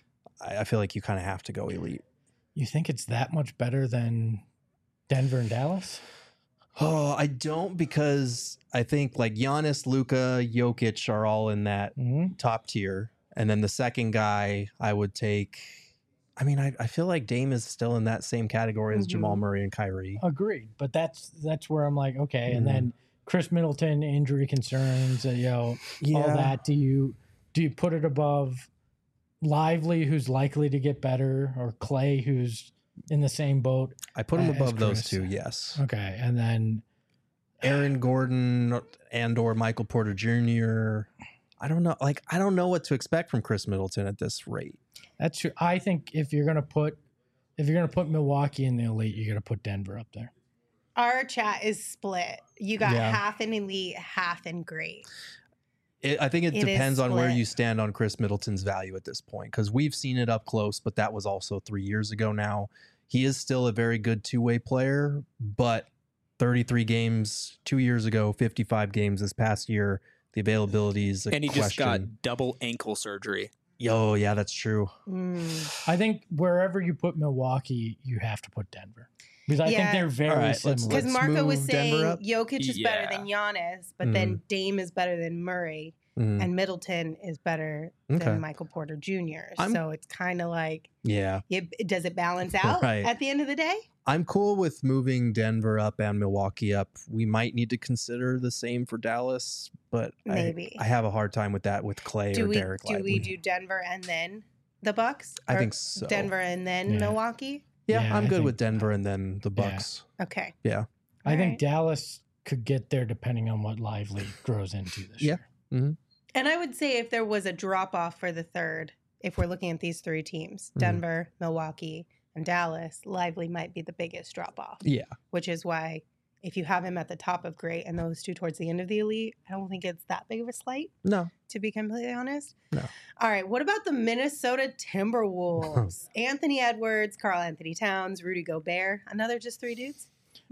I feel like you kind of have to go elite. You think it's that much better than Denver and Dallas? Oh, I don't, because I think like Giannis, Luka, Jokic are all in that Mm-hmm. top tier. And then the second guy I would take, I mean, I feel like Dame is still in that same category as Mhm. Jamal Murray and Kyrie. Agreed, but that's where I'm like, okay. And Mhm. then Chris Middleton injury concerns, all that. Do you put it above Lively, who's likely to get better, or Clay, who's in the same boat? I put him as above those Chris. two, yes. Okay, and then Aaron Gordon and or Michael Porter Jr. I don't know. Like, I don't know what to expect from Chris Middleton at this rate. that's true. I think if you're gonna put Milwaukee in the elite, you got to put Denver up there. Our chat is split. You got Yeah. half in elite, half in great. I think it It is depends on where split. you stand on Chris Middleton's value at this point, because we've seen it up close, but that was also 3 years ago now. He is still a very good two-way player, but 33 games 2 years ago, 55 games this past year, the availability is a and he question. just got double ankle surgery. Yo, yeah, that's true. Mm. I think wherever you put Milwaukee, you have to put Denver because I think Yeah. they're very All right, let's- similar. Because let's Marco was move Denver saying up. Jokic is better Yeah. than Giannis, but then Dame is better than Murray, Mhm. and Middleton is better Okay. than Michael Porter Jr. I'm- So it's kind of like, Yeah. does it balance out Right. at the end of the day? I'm cool with moving Denver up and Milwaukee up. We might need to consider the same for Dallas, but Maybe. I have a hard time with that with Clay Do or we Derek do Lively. we do Denver and then the Bucks? I Or think so. Denver and then Yeah. Milwaukee. Yeah, Yeah, I'm I good think- with Denver and then the Yeah. Bucks. Okay. Yeah. I All think right. Dallas could get there depending on what Lively grows into this Yeah. year. And I would say if there was a drop off for the third, if we're looking at these 3 teams, Mhm. Denver, Milwaukee, and Dallas, Lively might be the biggest drop off. Yeah. Which is why if you have him at the top of great and those 2 towards the end of the elite, I don't think it's that big of a slight, No. to be completely honest. No. All right. What about the Minnesota Timberwolves? Anthony Edwards, Karl Anthony Towns, Rudy Gobert. Another just 3 dudes?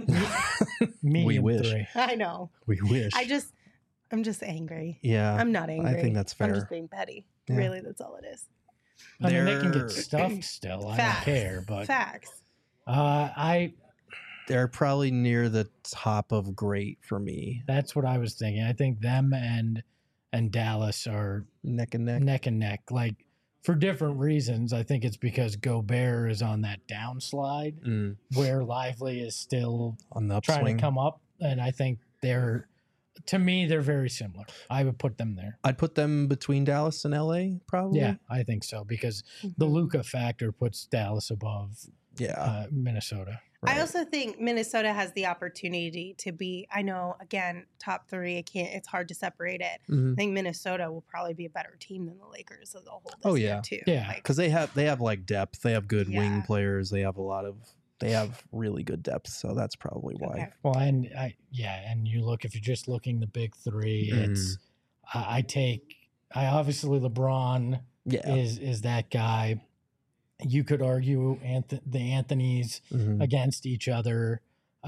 Me We and wish. 3. I know. We wish. I'm just angry. Yeah. I'm not angry. think that's I'm fair. just being petty. Yeah. Really, that's all it is. I mean, they can They're- get stuffed still. I Facts. don't care, but Facts. I They're probably near the top of great for me. That's what I was thinking. I think them and Dallas are Neck and neck. neck and neck, like for different reasons. I think it's because Gobert is on that downslide where Lively is still On the trying upswing. to come up, and I think to me they're very similar. I would put them there. I'd put them between Dallas and LA, probably. Yeah, I think so because the Luka factor puts Dallas above Yeah. Minnesota. I also think Minnesota has the opportunity to be, I know, again, top three. It's hard to separate it. Mhm. I think Minnesota will probably be a better team than the Lakers as a whole this Oh, year, yeah. too. Yeah. Like, Because they have like depth. They have good wing Yeah. players. They have really good depth. So that's probably why. Okay. Well, and and you look, if you're just looking the big three, it's I obviously LeBron Yeah. is that guy. You could argue the Anthonys Mhm. against each other.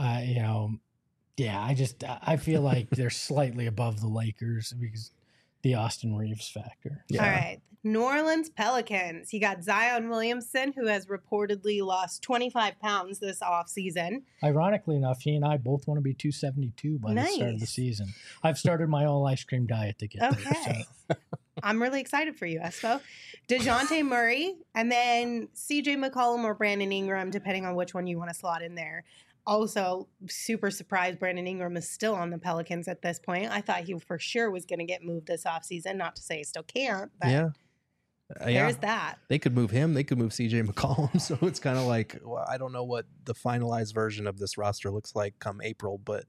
I feel like they're slightly above the Lakers because the Austin Reeves factor. Yeah. All right. New Orleans Pelicans. You got Zion Williamson, who has reportedly lost 25 pounds this offseason. Ironically enough, he and I both want to be 272 by the start of the Nice. season. I've started my all ice cream diet to get there. Okay. So. I'm really excited for you, Espo. DeJounte Murray, and then CJ McCollum or Brandon Ingram, depending on which one you want to slot in there. Also, super surprised Brandon Ingram is still on the Pelicans at this point. I thought he for sure was going to get moved this offseason. Not to say he still can't, but Yeah. there's that. They could move him. They could move CJ McCollum. So it's kind of like, well, I don't know what the finalized version of this roster looks like come April, but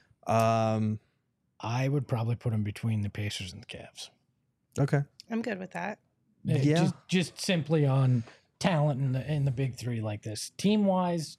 I would probably put him between the Pacers and the Cavs. okay. I'm good with that. Yeah. Just simply on talent in the big three like this. Team wise,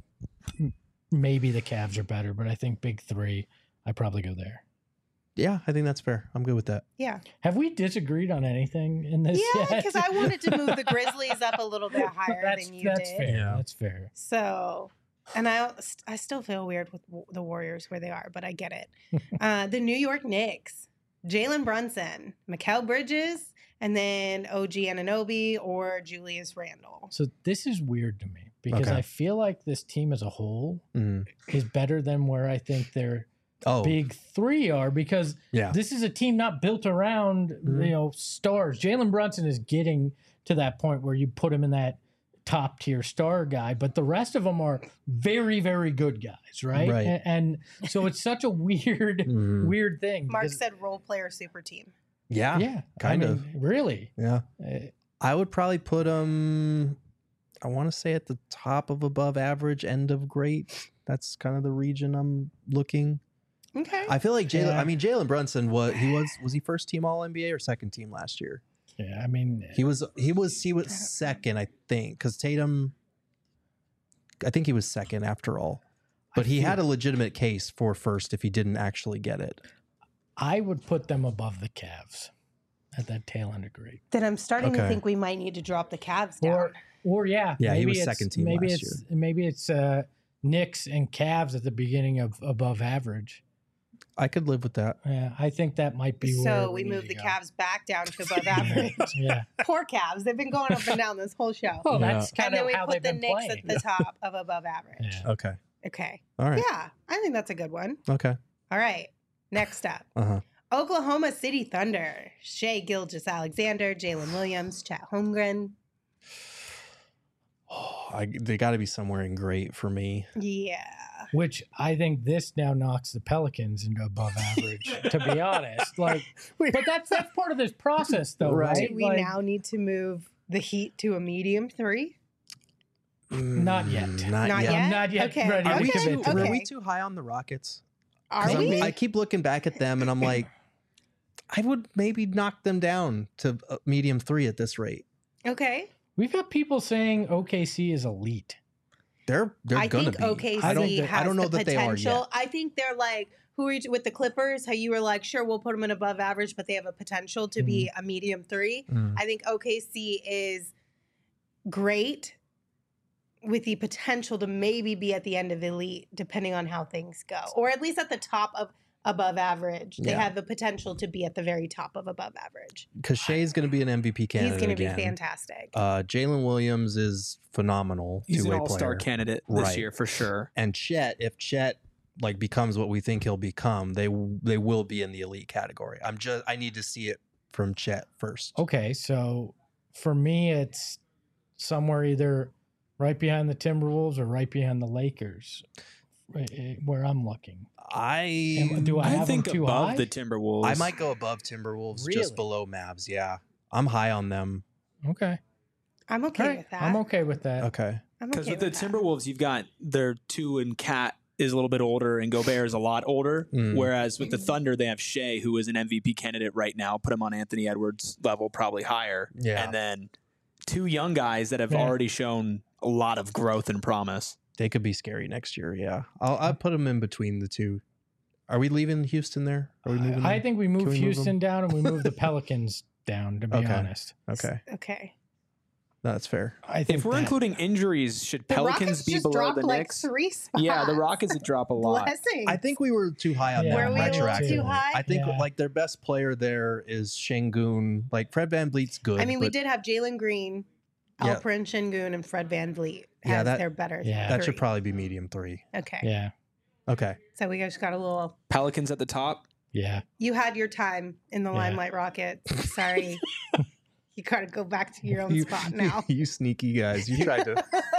maybe the Cavs are better, but I think big three, I probably go there. Yeah, I think that's fair. I'm good with that. Yeah. Have we disagreed on anything in this Yeah, yet? because I wanted to move the Grizzlies up a little bit higher than you that's did. fair. Yeah. That's fair. So, and I still feel weird with the Warriors where they are, but I get it. The New York Knicks, Jalen Brunson, Mikal Bridges, and then OG Anunoby or Julius Randle. So this is weird to me because Okay. I feel like this team as a whole Mhm. is better than where I think their Oh, big three are because yeah. this is a team not built around stars. Jalen Brunson is getting to that point where you put him in that top tier star guy, but the rest of them are very, very good guys, right? Right. And so it's such a weird, Mhm. weird thing. Mark because- said role player super team. Yeah. yeah, kind I of. mean, really. Yeah. Uh, I would probably put them, I want to say at the top of above average, end of great. That's kind of the region I'm looking. Okay. I feel like Yeah. Jalen Brunson was he first team all NBA or second team last year? yeah, I mean, He was second, I think, because Tatum, I think he was second after all. But he had a legitimate case for first if he didn't actually get it. I would put them above the Cavs at that tail end of great. Then I'm starting to Okay. think we might need to drop the Cavs down. Or yeah, Yeah, he maybe was it's- second team Maybe last it's maybe it's Knicks and Cavs at the beginning of above average. I could live with that. Yeah, I think that might be where So we need move to the go. Cavs back down to above average. Yeah. Poor Cavs. They've been going up and down this whole show. Well, Yeah. that's And kind then of we how put they've the been Knicks playing. at the top of above average. Yeah. Okay. Okay. All right. Yeah, I think that's a good one. Okay. All right. Next up. Uh-huh. Oklahoma City Thunder. Shea Gilgeous-Alexander, Jalen Williams, Chet Holmgren. They got to be somewhere in great for me. Yeah. Which I think this now knocks the Pelicans into above average, to be honest. But that's part of this process, though, Right. right? Do we now need to move the Heat to a medium 3? Not yet. Not, Not yet. yet? I'm not yet Okay. ready Are to we, Okay, commit to too, that. are we okay. too high on the Rockets? Are 'Cause we? I keep looking back at them and I'm like, I would maybe knock them down to medium 3 at this rate. Okay. We've got people saying OKC is elite. They're I gonna think be. OKC I don't, has I don't know the that they are potential. yet. I think they're like, who are you with the Clippers? How you were like, sure, we'll put them in above average, but they have a potential to be a medium 3. Mm. I think OKC is great with the potential to maybe be at the end of elite, depending on how things go, or at least at the top of above average. They Yeah. have the potential to be at the very top of above average. Because Shea's going to be an MVP candidate. He's going to be again. fantastic. Jalen Williams is phenomenal. He's an two-way all-star player. candidate this Right. year for sure. And Chet, if Chet like becomes what we think he'll become, they will be in the elite category. I need to see it from Chet first. Okay, so for me, it's somewhere either right behind the Timberwolves or right behind the Lakers, where I'm looking. Do I I have think them too above high? the Timberwolves. I might go above Timberwolves, Really? just below Mavs. Yeah, I'm high on them. Okay, I'm okay all right, with that. I'm okay with that. Okay. I'm Because okay with the with that. Timberwolves, you've got their 2 and Cat is a little bit older, and Gobert is a lot older. Mm. Whereas with the Thunder, they have Shea, who is an MVP candidate right now. Put him on Anthony Edwards' level, probably higher. Yeah. And then 2 young guys that have Yeah. already shown a lot of growth and promise. They could be scary next year. Yeah, I'll put them in between the two. Are we leaving Houston there? Are we moving? I them? think we Can move we move Houston down and we move the Pelicans down. To be Okay. honest, Okay, Okay. that's fair. I think If we're that- including injuries, should The Pelicans Rockets be just below dropped the like Knicks? 3 spots. Yeah, the Rockets would drop a lot. Blessings. I think we were too high on Yeah. them. Were we a little retroactively. too high? I think Yeah. like their best player there is Şengün. Like Fred VanVleet's good. I mean, we but did have Jalen Green, Yeah. Alperen Şengün, and Fred VanVleet as Yeah, that- their better Yeah. That should three. probably be medium 3. Okay. yeah, Okay. So we just got a little. Pelicans at the top. yeah. You had your time in the Yeah. Limelight Rockets. Sorry. You got to go back to your own spot now. You sneaky guys. You tried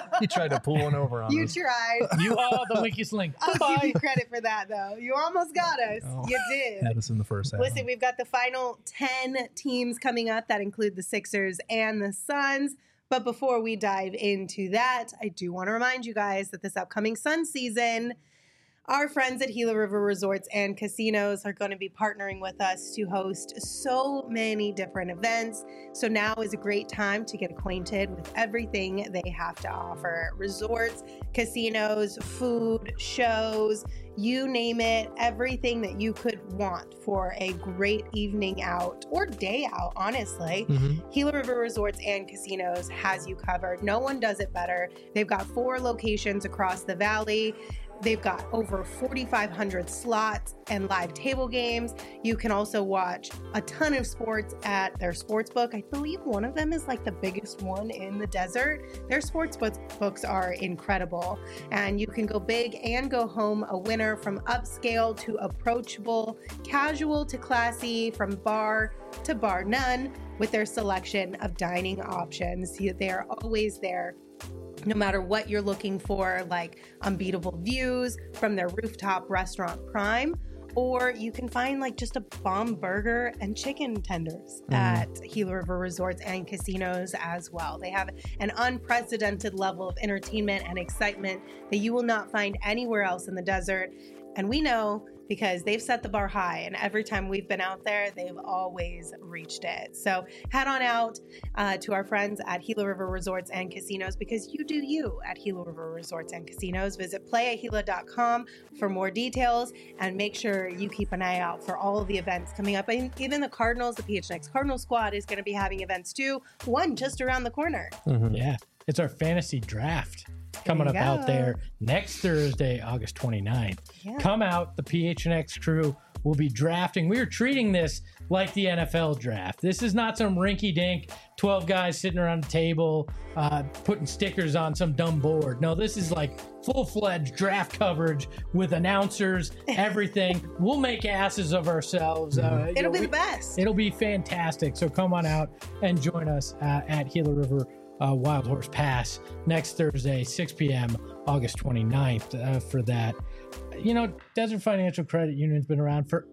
to pull one over on You us. tried. You are the weakest link. I'll give Bye. you credit for that, though. You almost got us. Oh. You did. Had us in the first half. Listen, we've got the final 10 teams coming up that include the Sixers and the Suns. But before we dive into that, I do want to remind you guys that this upcoming Sun season, our friends at Gila River Resorts and Casinos are going to be partnering with us to host so many different events. So now is a great time to get acquainted with everything they have to offer. Resorts, casinos, food, shows, you name it, everything that you could want for a great evening out or day out, honestly. Mhm. Gila River Resorts and Casinos has you covered. No one does it better. They've got 4 locations across the valley. They've got over 4,500 slots and live table games. You can also watch a ton of sports at their sports book. I believe one of them is like the biggest one in the desert. Their sports books are incredible. And you can go big and go home a winner, from upscale to approachable, casual to classy, from bar to bar none, with their selection of dining options. They are always there, no matter what you're looking for, like unbeatable views from their rooftop restaurant Prime, or you can find like just a bomb burger and chicken tenders at Gila River Resorts and Casinos as well. They have an unprecedented level of entertainment and excitement that you will not find anywhere else in the desert. And we know, because they've set the bar high, and every time we've been out there, they've always reached it. So head on out to our friends at Gila River Resorts and Casinos, because you do you at Gila River Resorts and Casinos. Visit playatgila.com for more details, and make sure you keep an eye out for all of the events coming up. And even the Cardinals, the PHNX Cardinal squad is going to be having events too, one just around the corner. Mhm. Yeah, it's our fantasy draft coming you up out go. there next Thursday, August 29th. Yeah. Come out, the PHNX crew will be drafting. We are treating this like the NFL draft. This is not some rinky-dink 12 guys sitting around a table putting stickers on some dumb board. No, this is like full-fledged draft coverage with announcers, everything. We'll make asses of ourselves. It'll be the best. It'll be fantastic. So come on out and join us at Gila River Wild Horse Pass next Thursday, 6 p.m., August 29th for that. You know, Desert Financial Credit Union's been around for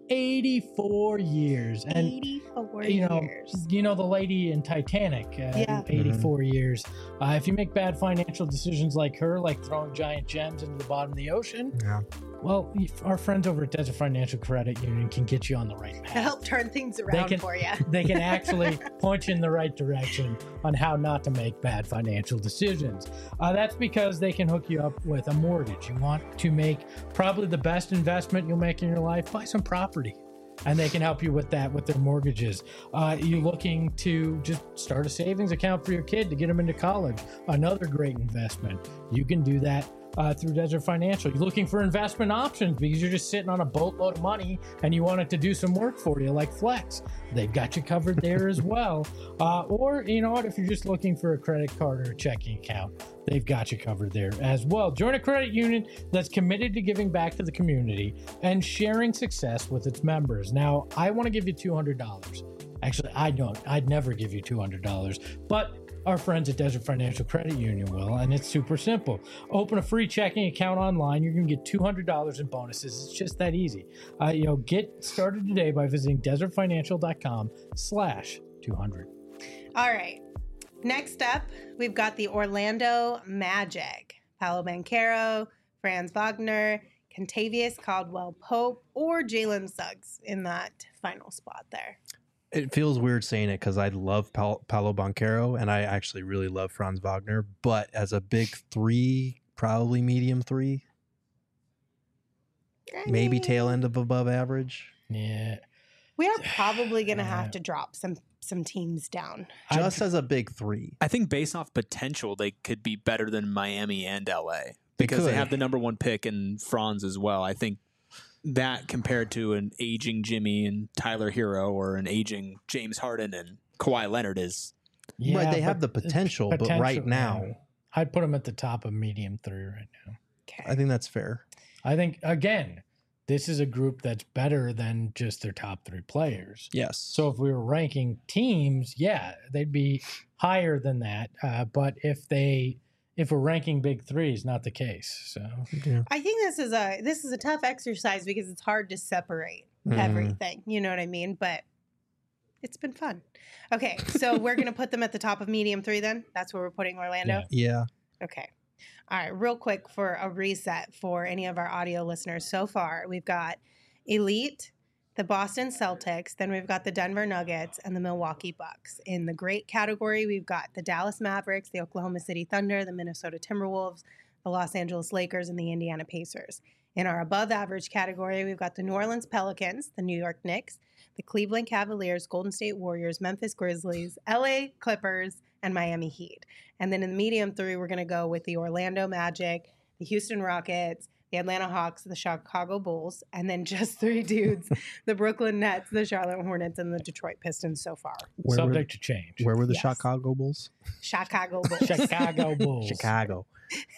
84 years. And 84 years. You know the lady in Titanic, Yeah. 84 years. If you make bad financial decisions like her, like throwing giant gems into the bottom of the ocean, Yeah. well, our friends over at Desert Financial Credit Union can get you on the right To path. help turn things around can- for you. They can actually point you in the right direction on how not to make bad financial decisions. That's because they can hook you up with a mortgage. You want to make probably the best investment you'll make in your life, buy some property. And they can help you with that with their mortgages. You looking to just start a savings account for your kid to get them into college? Another great investment. You can do that through Desert Financial. You're looking for investment options because you're just sitting on a boatload of money and you want it to do some work for you, like Flex. They've got you covered there as well. Or, you know what, if you're just looking for a credit card or a checking account, they've got you covered there as well. Join a credit union that's committed to giving back to the community and sharing success with its members. Now, I want to give you $200. Actually, I don't. I'd never give you $200, but our friends at Desert Financial Credit Union will, and it's super simple. Open a free checking account online. You're going to get $200 in bonuses. It's just that easy. Get started today by visiting desertfinancial.com/200. All right. Next up, we've got the Orlando Magic. Paolo Banchero, Franz Wagner, Kentavious Caldwell-Pope, or Jalen Suggs in that final spot there. It feels weird saying it because I love Paolo Banchero and I actually really love Franz Wagner, but as a big three, probably medium three, maybe tail end of above average. Yeah. We are probably going to have to drop some teams down. Just as a big three. I think based off potential, they could be better than Miami and LA because they have the number one pick and Franz as well. I think that compared to an aging Jimmy and Tyler Hero or an aging James Harden and Kawhi Leonard is. Yeah, right, they have the potential, but right now. I'd put them at the top of medium three right now. Okay. I think that's fair. I think, again, this is a group that's better than just their top three players. Yes. So if we were ranking teams, yeah, they'd be higher than that. But if we're ranking big threes, not the case. So yeah. I think this is a tough exercise because it's hard to separate everything. You know what I mean? But it's been fun. Okay, so we're gonna put them at the top of medium three then? That's where we're putting Orlando? Yeah. Okay. All right, real quick for a reset for any of our audio listeners so far, we've got Elite, the Boston Celtics, then we've got the Denver Nuggets and the Milwaukee Bucks. In the great category, we've got the Dallas Mavericks, the Oklahoma City Thunder, the Minnesota Timberwolves, the Los Angeles Lakers, and the Indiana Pacers. In our above average category, we've got the New Orleans Pelicans, the New York Knicks, the Cleveland Cavaliers, Golden State Warriors, Memphis Grizzlies, LA Clippers, and Miami Heat. And then in the medium three, we're going to go with the Orlando Magic, the Houston Rockets, the Atlanta Hawks, the Chicago Bulls, and then just three dudes, the Brooklyn Nets, the Charlotte Hornets, and the Detroit Pistons so far. Subject to change. Where were the Chicago Bulls? Chicago Bulls. Chicago Bulls. Chicago.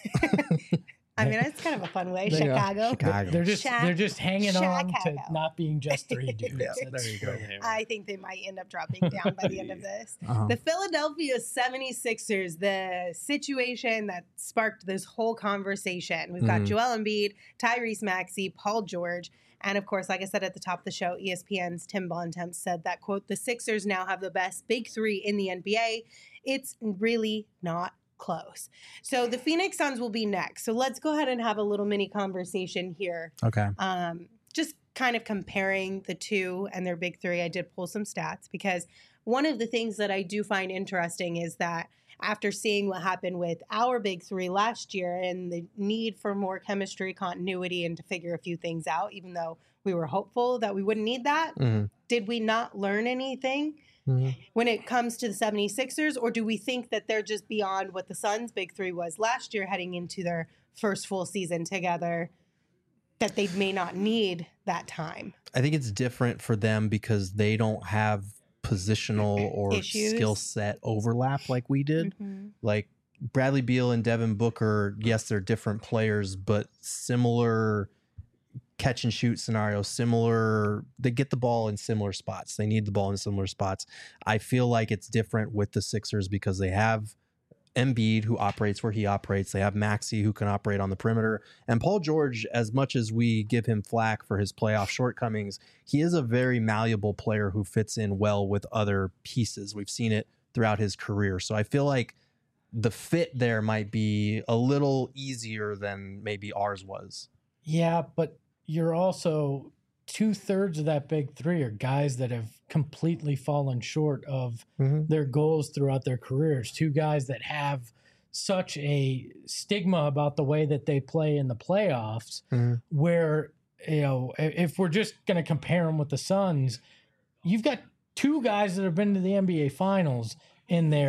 I mean, it's kind of a fun way. Chicago. They're just hanging on to Chicago. not being just three dudes. Yeah. So there you go. I think they might end up dropping down by the end of this. The Philadelphia 76ers, the situation that sparked this whole conversation. We've got Joel Embiid, Tyrese Maxey, Paul George, and of course, like I said at the top of the show, ESPN's Tim Bontemps said that, quote, the Sixers now have the best big three in the NBA. It's really not close. So the Phoenix Suns will be next. So let's go ahead and have a little mini conversation here. Okay. Just kind of comparing the two and their big three. I did pull some stats because one of the things that I do find interesting is that after seeing what happened with our big three last year and the need for more chemistry, continuity, and to figure a few things out, even though we were hopeful that we wouldn't need that, did we not learn anything when it comes to the 76ers? Or do we think that they're just beyond what the Suns' big three was last year heading into their first full season together, that they may not need that time? I think it's different for them because they don't have positional or skill set overlap like we did. Like Bradley Beal and Devin Booker, yes, they're different players, but similar catch and shoot scenario, similar, they get the ball in similar spots. They need the ball in similar spots. I feel like it's different with the Sixers because they have Embiid, who operates where he operates. They have Maxey, who can operate on the perimeter. And Paul George, as much as we give him flack for his playoff shortcomings, he is a very malleable player who fits in well with other pieces. We've seen it throughout his career. So I feel like the fit there might be a little easier than maybe ours was. Yeah, but you're also 2/3 of that big three are guys that have completely fallen short of their goals throughout their careers. Two guys that have such a stigma about the way that they play in the playoffs, where, you know, if we're just going to compare them with the Suns, you've got two guys that have been to the NBA Finals in there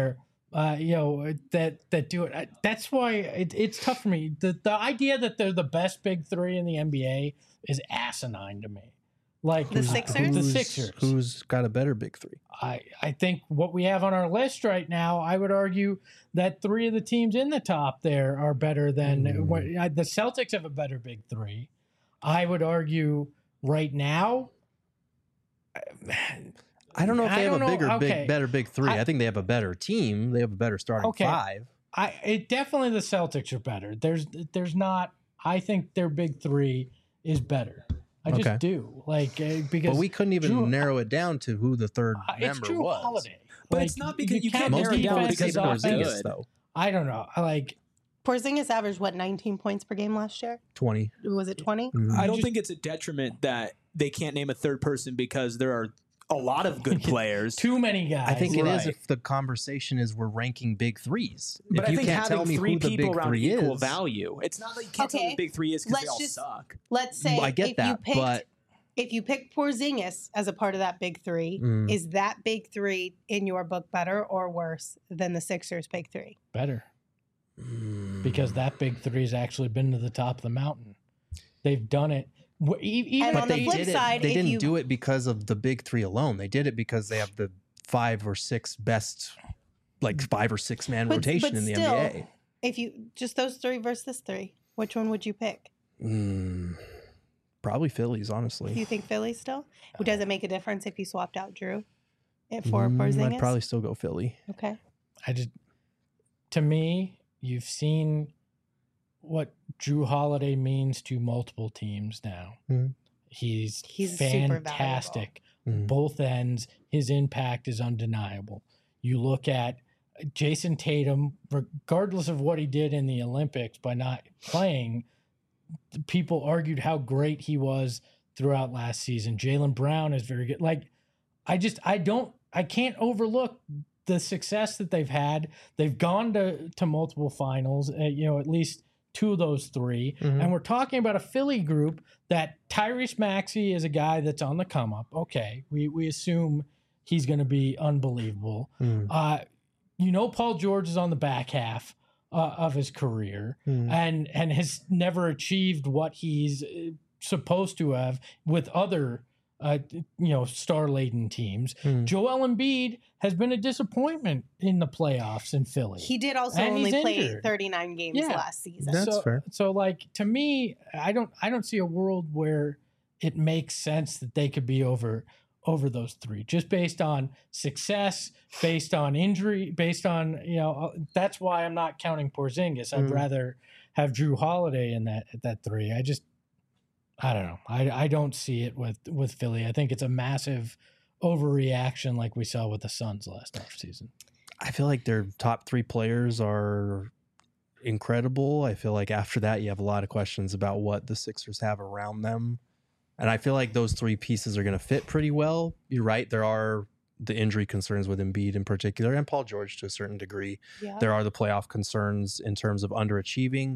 that do it. That's why it's tough for me. The idea that they're the best big three in the NBA is asinine to me. Like The Sixers? The Sixers. Who's got a better big three? I think what we have on our list right now, I would argue that three of the teams in the top there are better than the Celtics have a better big three. I would argue right now. I don't know if they have a better big three. I think they have a better team. They have a better starting five. Definitely the Celtics are better. There's not. I think their big three is better. I just do because. But we couldn't even narrow it down to who the third it's member Drew was. Holiday. But it's not because you can't narrow it down because Porzingis, though. I don't know. Porzingis averaged 19 points per game last year? 20. Was it 20? Mm-hmm. I don't think it's a detriment that they can't name a third person because there are a lot of good players. Too many guys. I think it is if the conversation is we're ranking big threes. But if you I think can't tell me three who the people big around three equal is, value. It's not that you can't tell me the big three is because they all suck. Let's say I get that, but if you pick Porzingis as a part of that big three, is that big three in your book better or worse than the Sixers' big three? Better. Because that big three has actually been to the top of the mountain. They've done it. And on the flip side, they didn't do it because of the big three alone. They did it because they have the 5 or 6 best, 5 or 6 man rotation in the NBA. If you just those three versus this three, which one would you pick? Probably Phillies, honestly. Do you think Philly still? Does it make a difference if you swapped out Drew for Porzingis? I'd probably still go Philly. Okay. To me, you've seen what Drew Holiday means to multiple teams now. He's fantastic. Both ends. His impact is undeniable. You look at Jason Tatum, regardless of what he did in the Olympics by not playing, people argued how great he was throughout last season. Jaylen Brown is very good. I can't overlook the success that they've had. They've gone to multiple finals, at least 2 of those 3. And we're talking about a Philly group that Tyrese Maxey is a guy that's on the come up. Okay. We assume he's going to be unbelievable. Paul George is on the back half of his career and has never achieved what he's supposed to have with other star-laden teams. Joel Embiid has been a disappointment in the playoffs in Philly. He did also only play 39 games last season. That's fair. So to me, I don't see a world where it makes sense that they could be over those 3, just based on success, based on injury, based on, that's why I'm not counting Porzingis. I'd rather have Drew Holiday in that 3. I don't know. I don't see it with Philly. I think it's a massive overreaction like we saw with the Suns last offseason. I feel like their top 3 players are incredible. I feel like after that, you have a lot of questions about what the Sixers have around them. And I feel like those 3 pieces are going to fit pretty well. You're right. There are the injury concerns with Embiid in particular and Paul George to a certain degree. Yeah. There are the playoff concerns in terms of underachieving.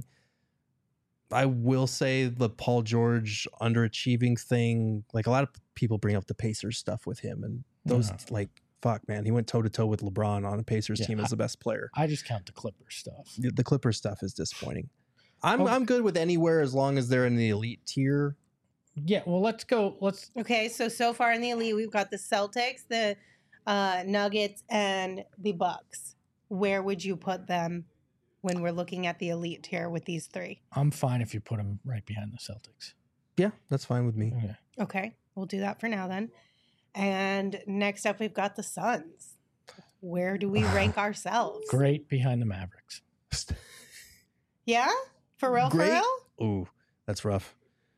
I will say the Paul George underachieving thing, a lot of people bring up the Pacers stuff with him. And those, fuck, man, he went toe-to-toe with LeBron on a Pacers team as the best player. I just count the Clippers stuff. The Clippers stuff is disappointing. I'm good with anywhere as long as they're in the elite tier. Yeah, well, let's go. Okay, so far in the elite, we've got the Celtics, the Nuggets, and the Bucks. Where would you put them when we're looking at the elite tier with these 3? I'm fine if you put them right behind the Celtics. Yeah, that's fine with me. Okay, we'll do that for now then. And next up, we've got the Suns. Where do we rank ourselves? Great behind the Mavericks. Yeah? For real? Great? For real? Ooh, that's rough.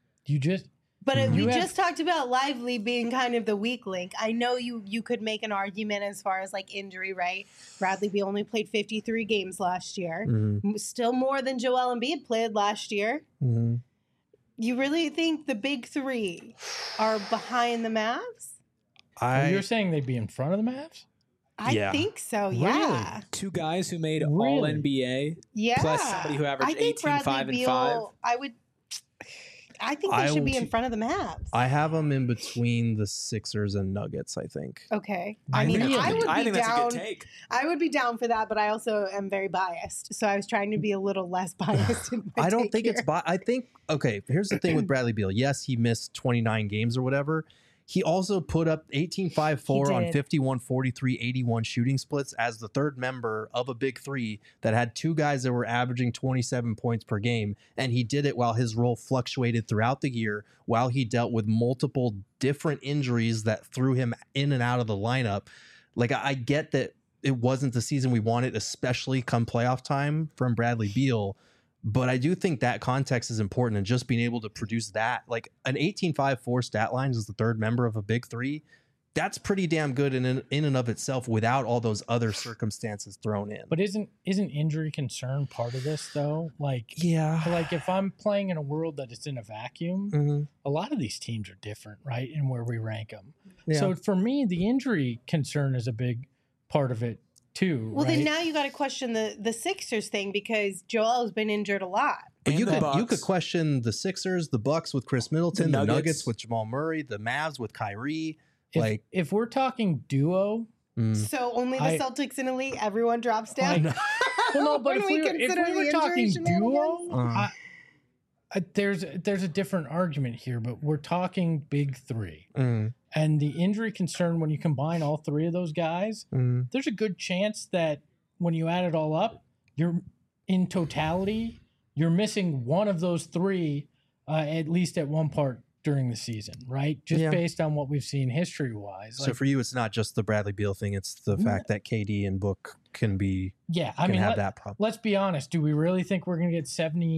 But we just talked about Lively being kind of the weak link. I know you could make an argument as far as injury, right? Bradley Beal only played 53 games last year. Still more than Joel Embiid played last year. You really think the big 3 are behind the Mavs? You're saying they'd be in front of the Mavs? I think so, yeah. Really? 2 guys who made all NBA. Yeah. Plus somebody who averaged 18, 5, and 5. I think they should be in front of the Mavs. I have them in between the Sixers and Nuggets, I think. Okay. I mean, think I would be that's a down. good take. I would be down for that, but I also am very biased. So I was trying to be a little less biased in my I don't take think here. it's I think, okay, here's the thing with Bradley Beal. Yes, he missed 29 games or whatever. He also put up 18-5-4 on 51, 43, 81 shooting splits as the third member of a big three that had two guys that were averaging 27 points per game. And he did it while his role fluctuated throughout the year, while he dealt with multiple different injuries that threw him in and out of the lineup. Like, I get that it wasn't the season we wanted, especially come playoff time from Bradley Beal. But I do think that context is important, and just being able to produce that, like an 18-5-4 stat line as the third member of a big three, that's pretty damn good in and of itself without all those other circumstances thrown in. But isn't injury concern part of this though? Like, yeah, like if I'm playing in a world that is in a vacuum, a lot of these teams are different, right? In where we rank them. Yeah. So for me, the injury concern is a big part of it too. Well, right? then now you got to question the Sixers thing because Joel's been injured a lot. But And you the could Bucks. question the Sixers, the Bucks with Chris Middleton, The the Nuggets. Nuggets with Jamal Murray, the Mavs with Kyrie. if we're talking duo, So only the I- Celtics in the league, everyone drops down. well, no, but When if we we were consider the talking injury duo, shenanigans? there's a different argument here, but we're talking big three. And the injury concern, when you combine all three of those guys, there's a good chance that when you add it all up, you're in totality, you're missing one of those three, at least at one part during the season, right? Just Yeah. based on what we've seen history wise. So for you, it's not just the Bradley Beal thing; it's the fact that KD and Book can have that problem. let's be honest. Do we really think we're going to get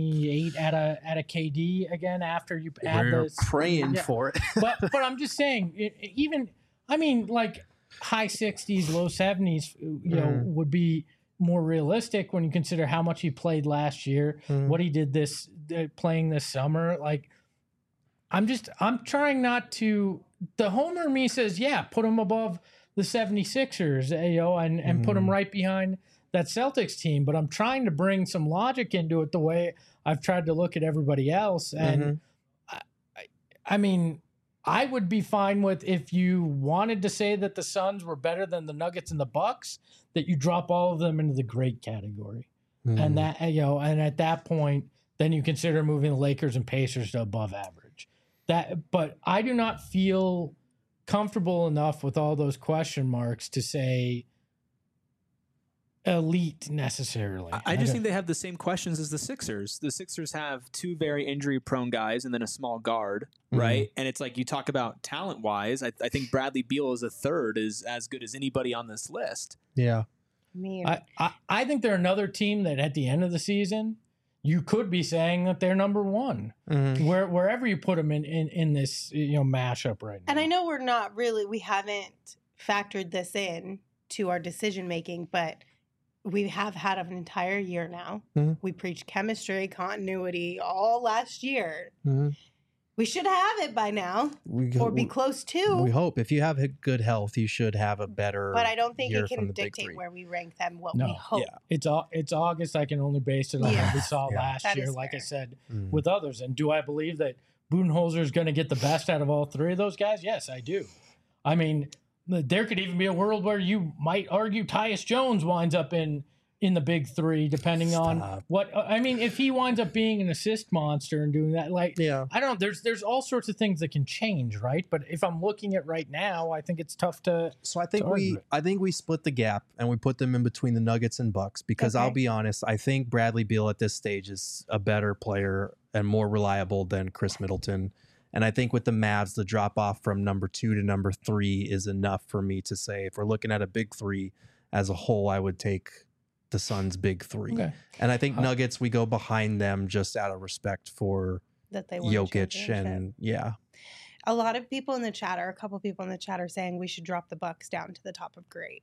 78 at a KD again after you add We're those? praying Yeah. for it. but I'm just saying, like high 60s, low 70s, would be more realistic when you consider how much he played last year, what he did playing this summer. Like, I'm trying not to. The homer in me says, yeah, put him above the 76ers, and put him right behind that Celtics team. But I'm trying to bring some logic into it the way I've tried to look at everybody else. And I mean, I would be fine with if you wanted to say that the Suns were better than the Nuggets and the Bucks, that you drop all of them into the great category. And that, and at that point, then you consider moving the Lakers and Pacers to above average. But I do not feel comfortable enough with all those question marks to say elite necessarily. I just think they have the same questions as the Sixers. The Sixers have two very injury-prone guys and then a small guard, right? And it's like you talk about talent-wise. I think Bradley Beal as a third is as good as anybody on this list. Yeah. I mean, I think they're another team that at the end of the season, you could be saying that they're number one, wherever you put them in this mashup right now. and I know we haven't factored this in to our decision making, but we have had an entire year now. We preached chemistry, continuity all last year. We should have it by now, or be close to. We hope. If you have good health, you should have a better. But I don't think year it from can the big dictate three. where we rank them. What No. we hope. It's August. I can only base it on what we saw last That year, is like I fair. said, with others. And do I believe that Budenholzer is going to get the best out of all three of those guys? Yes, I do. I mean, there could even be a world where you might argue Tyus Jones winds up in the big three, depending on what. I mean, if he winds up being an assist monster and doing that, like, I don't know. There's all sorts of things that can change, right? But if I'm looking at right now, I think it's tough to. So I think we split the gap and we put them in between the Nuggets and Bucks because I'll be honest, I think Bradley Beal at this stage is a better player and more reliable than Chris Middleton. And I think with the Mavs, the drop off from number 2 to number 3 is enough for me to say if we're looking at a big three as a whole, I would take the Suns' big three. Okay. And I think Nuggets, we go behind them just out of respect for That they won a Jokic championship. and A lot of people in the chat, or a couple people in the chat, are saying we should drop the Bucks down to the top of great.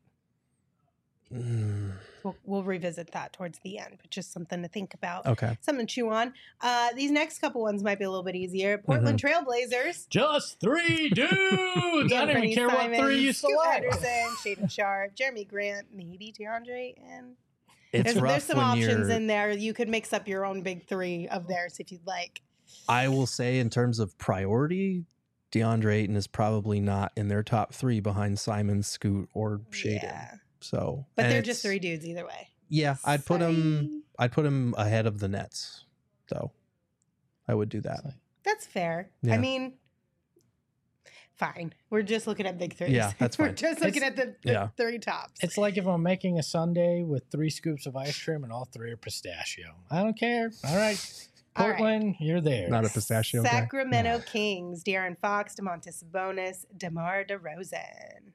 We'll revisit that towards the end, but just something to think about. Okay. Something to chew on. These next couple ones might be a little bit easier. Portland Trailblazers. Just 3 dudes. I don't even care what 3 you Scoot select. Henderson, Shaden Sharp, Jeremy Grant, maybe DeAndre, and It's rough there's some when options you're- in there. You could mix up your own big three of theirs if you'd like. I will say, in terms of priority, DeAndre Ayton is probably not in their top 3 behind Simon, Scoot, or Shaden. Yeah. So, But and they're just it's- 3 dudes either way. Yeah, I'd put him. Sorry. I'd put him ahead of the Nets, though. I would do that. That's fair. I Yeah. mean, fine. We're just looking at big threes. Yeah, that's We're fine. just looking at the yeah. 3 tops. It's like if I'm making a sundae with 3 scoops of ice cream and all 3 are pistachio. I don't care. All right. All right. Portland, you're there. Not a pistachio guy. Sacramento Kings, De'Aaron Fox, DeMontis Sabonis, DeMar DeRozan.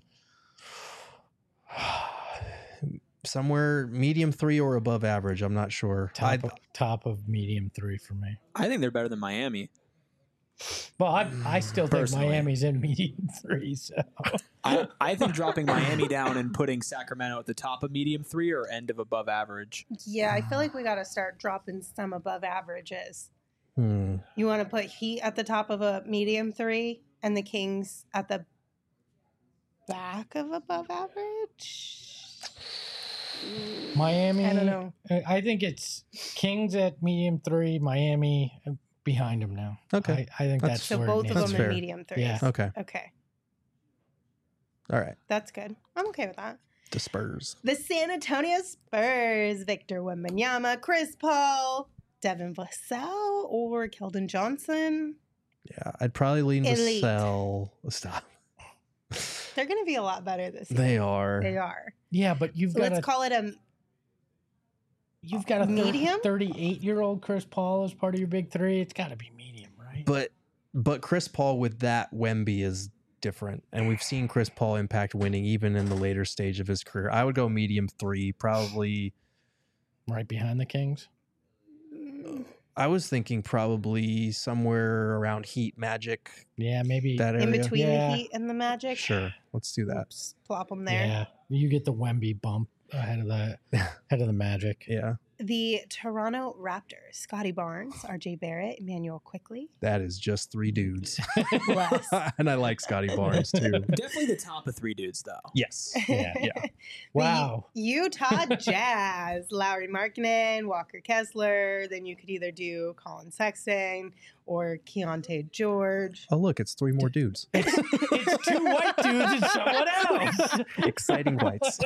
Somewhere medium 3 or above average. I'm not sure. Top of medium 3 for me. I think they're better than Miami. Well, I still think Personally. Miami's in medium 3. So I think dropping Miami down and putting Sacramento at the top of medium 3 or end of above average. Yeah, I feel like we got to start dropping some above averages. Hmm. You want to put Heat at the top of a medium 3 and the Kings at the back of above average? Miami, I don't know. I think it's Kings at medium 3, Miami behind them now. Okay. I think that's So where both it of needs them to in fair. medium 3s. Yeah. Okay. Okay, All right. that's good. I'm okay with that. The Spurs. The San Antonio Spurs, Victor Wembanyama, Chris Paul, Devin Vassell, or Keldon Johnson. Yeah, I'd probably lean Elite. Vassell. Stop. They're going to be a lot better this year. They are. They are. Yeah, but you've got Let's call it a a medium? 38-year-old Chris Paul as part of your big 3. It's got to be medium, right? But Chris Paul with that Wemby is different, and we've seen Chris Paul impact winning even in the later stage of his career. I would go medium 3, probably. Right behind the Kings. I was thinking probably somewhere around Heat, Magic, Yeah, maybe. that area. in between Yeah. the Heat and the Magic. Sure, let's do that. Oops, plop them there. Yeah, you get the Wemby bump ahead of the Magic. Yeah, The Toronto Raptors, Scotty Barnes, RJ Barrett, Emmanuel Quickly. that is just 3 dudes, Bless. and I like Scotty Barnes too. Definitely the top of 3 dudes, though. Yes. Yeah. Yeah. Wow. The Utah Jazz, Lowry Markkinen, Walker Kessler. Then you could either do Colin Sexton or Keontae George. Oh, look, it's 3 more dudes. It's 2 white dudes and someone else. Exciting whites.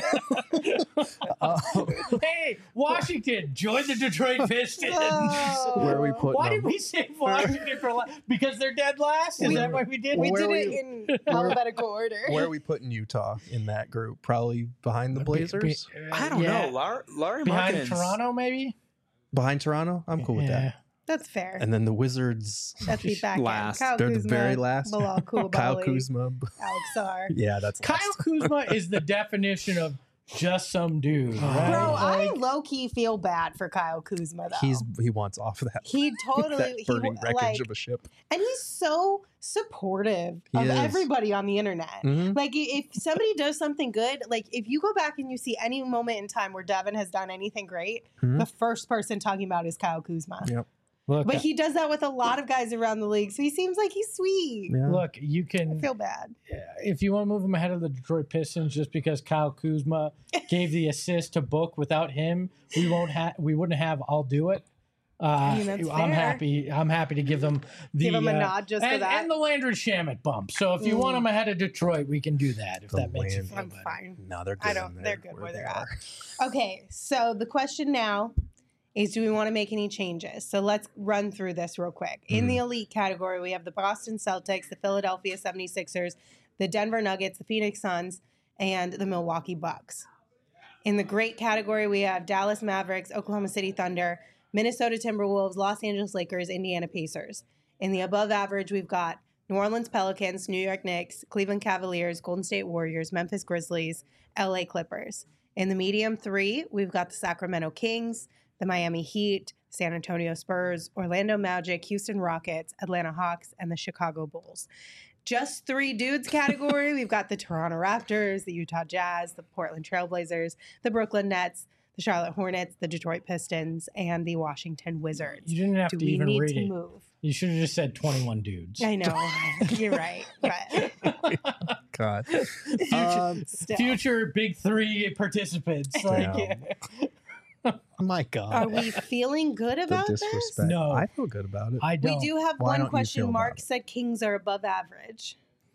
Hey, Washington, join the Detroit Pistons. Oh. Where are we putting Why them? did we say Washington for last? Because they're dead last? Is that why we did? We Where did are it we- in alphabetical order. Where are we putting Utah in that group? Probably behind the Blazers? I don't know. Larry Behind Markkinen's- Toronto, maybe? Behind Toronto? I'm cool with that. That's fair. And then the Wizards, That's the back end. Last. Kyle they're the Kuzma, very last. Bilal Koulibaly, Kyle Kuzma. Alex Sarr. Yeah, that's Kyle last. Kuzma is the definition of just some dude, right? Bro, I Like, low key feel bad for Kyle Kuzma though. He wants off of that. he totally that burning he, wreckage like, of a ship. and he's so supportive He of is. everybody on the internet. Mhm. Like if somebody does something good, like if you go back and you see any moment in time where Devin has done anything great, Mhm. the first person talking about is Kyle Kuzma. Yep. look, But he does that with a lot of guys around the league, so he seems like he's sweet. Yeah. look, you I can feel bad. if you want to move him ahead of the Detroit Pistons just because Kyle Kuzma gave the assist to Book. Without him, we wouldn't have I'll do it. mean, that's I'm fair. happy to give them the Give him a nod just for and, that. and the Landry Shamet bump. So if you want him ahead of Detroit, we can do that. If The that makes you Landry- feel I'm better. fine. No, they're good. I don't. in They're there good where they they're are. at. Okay, so the question now is, do we want to make any changes? So let's run through this real quick. In the elite category, we have the Boston Celtics, the Philadelphia 76ers, the Denver Nuggets, the Phoenix Suns, and the Milwaukee Bucks. In the great category, we have Dallas Mavericks, Oklahoma City Thunder, Minnesota Timberwolves, Los Angeles Lakers, Indiana Pacers. In the above average, we've got New Orleans Pelicans, New York Knicks, Cleveland Cavaliers, Golden State Warriors, Memphis Grizzlies, LA Clippers. In the medium 3, we've got the Sacramento Kings, the Miami Heat, San Antonio Spurs, Orlando Magic, Houston Rockets, Atlanta Hawks, and the Chicago Bulls. Just 3 dudes category, we've got the Toronto Raptors, the Utah Jazz, the Portland Trailblazers, the Brooklyn Nets, the Charlotte Hornets, the Detroit Pistons, and the Washington Wizards. You didn't have Do to we even need read to it. move? You should have just said 21 dudes. I know. You're right. But God. Future, still. future big 3 participants. Like, Yeah. My God. Are we feeling good The about this? disrespect. No. I feel good about it. I We don't. do have Why don't one you question. feel Mark about it? said Kings are above average.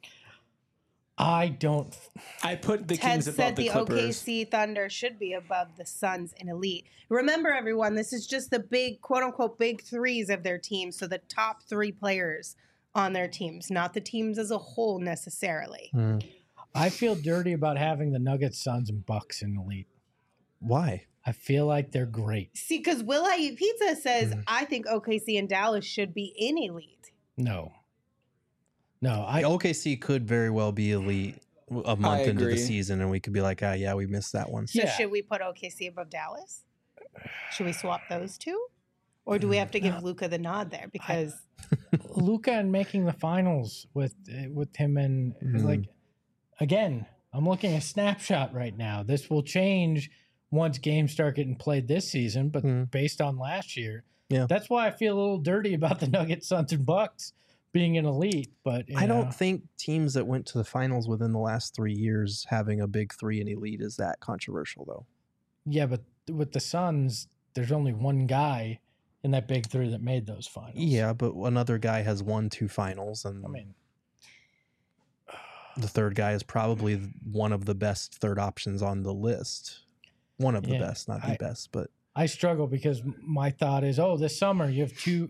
I don't. I put the Ted Kings above said the the Clippers. OKC Thunder should be above the Suns in elite. Remember, everyone, this is just the big, quote unquote, big threes of their team. So the top 3 players on their teams, not the teams as a whole necessarily. I feel dirty about having the Nuggets, Suns, and Bucks in elite. Why? I feel like they're great. See, because Will I Eat Pizza says, I think OKC and Dallas should be in elite. No. No, OKC could very well be elite a month into the agree. season, and we could be like, yeah, we missed that one. So Yeah. should we put OKC above Dallas? Should we swap those two? Or do we have to give Luca the nod there? Because Luka and making the finals with him and like again, I'm looking at a snapshot right now. This will change once games start getting played this season, but based on last year, that's why I feel a little dirty about the Nuggets, Suns, and Bucks being an elite. But I don't think teams that went to the finals within the last 3 years having a big 3 in elite is that controversial, though. Yeah, but with the Suns, there's only one guy in that big 3 that made those finals. Yeah, but another guy has won 2 finals, and I mean, the third guy is probably one of the best third options on the list. One of the best, not the best, but I struggle because my thought is, this summer you have two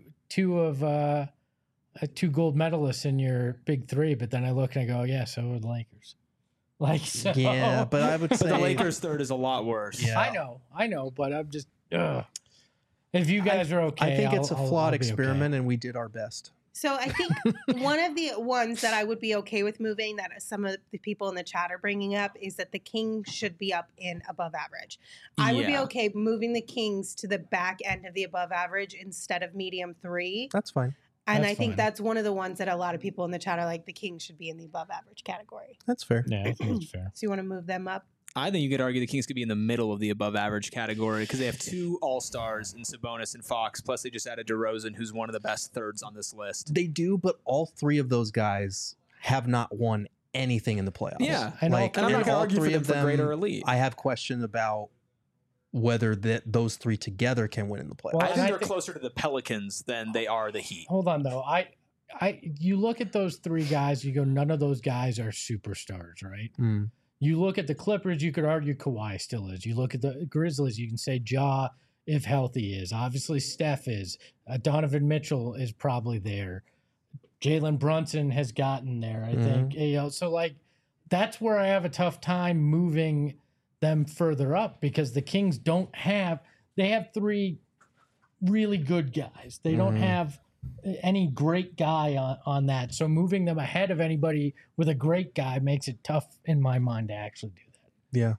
gold medalists in your big 3, but then I look and I go, yeah, so are the Lakers. Like, so, yeah, but I would But say the Lakers' third is a lot worse. Yeah. I know, but I'm just, if you guys are okay, I think it's a I'll flawed be okay. experiment, and we did our best. So I think one of the ones that I would be okay with moving that some of the people in the chat are bringing up is that the Kings should be up in above average. I would be Yeah. okay moving the Kings to the back end of the above average instead of medium 3. That's fine. And That's I think fine. that's one of the ones that a lot of people in the chat are like, the Kings should be in the above average category. That's fair. Yeah, I think that's fair. So you want to move them up? I think you could argue the Kings could be in the middle of the above average category because they have 2 All-Stars in Sabonis and Fox, plus they just added DeRozan, who's one of the best thirds on this list. They do, but all 3 of those guys have not won anything in the playoffs. Yeah, And like And I'm not and going to all argue for 3 them of for them, great or elite. I have question about whether those 3 together can win in the playoffs. Well, I and think I they're think- closer to the Pelicans than they are the Heat. Hold on though. You look at those 3 guys, you go, none of those guys are superstars, right? Mm. You look at the Clippers, you could argue Kawhi still is. You look at the Grizzlies, you can say Ja, if healthy, is. Obviously, Steph is. Donovan Mitchell is probably there. Jalen Brunson has gotten there, I think. So, like, that's where I have a tough time moving them further up because the Kings they have 3 really good guys. They don't have any great guy on that. So moving them ahead of anybody with a great guy makes it tough in my mind to actually do that. Yeah.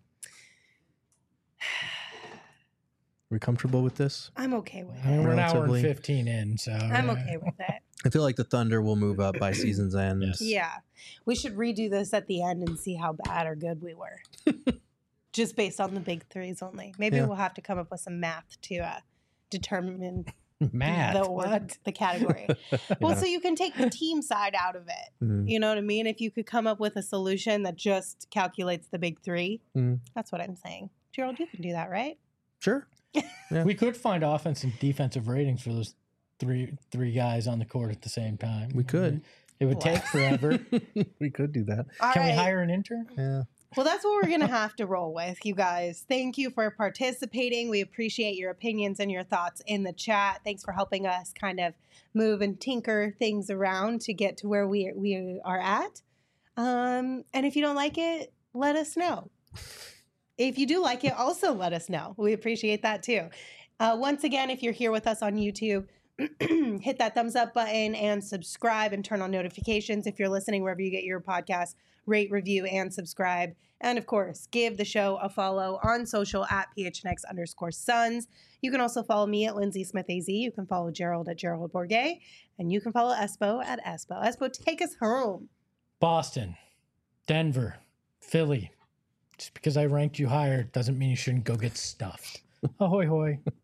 We comfortable with this? I'm okay with I mean, it. we're an hour and Relatively. 15 in, so I'm okay with it. I feel like the Thunder will move up by season's end. Yes. Yeah. We should redo this at the end and see how bad or good we were. Just based on the big 3s only. Maybe Yeah. we'll have to come up with some math to determine Matt, the category. Well, so you can take the team side out of it. Mhm. You know what I mean? If you could come up with a solution that just calculates the big 3, that's what I'm saying. Gerald, you can do that, right? Sure. We could find offense and defensive ratings for those three guys on the court at the same time. We could. It would take forever. We could do that. All Can we right. hire an intern? Yeah. Well, that's what we're going to have to roll with, you guys. Thank you for participating. We appreciate your opinions and your thoughts in the chat. Thanks for helping us kind of move and tinker things around to get to where we are at. And if you don't like it, let us know. If you do like it, also let us know. We appreciate that too. Once again, if you're here with us on YouTube, hit that thumbs up button and subscribe and turn on notifications. If you're listening wherever you get your podcast, rate, review, and subscribe. And of course, give the show a follow on social at PHNX_Suns. You can also follow me at Lindsay Smith AZ. You can follow Gerald at Gerald Bourget. And you can follow Espo at Espo. Espo, take us home. Boston, Denver, Philly. Just because I ranked you higher doesn't mean you shouldn't go get stuffed. Ahoy, hoy.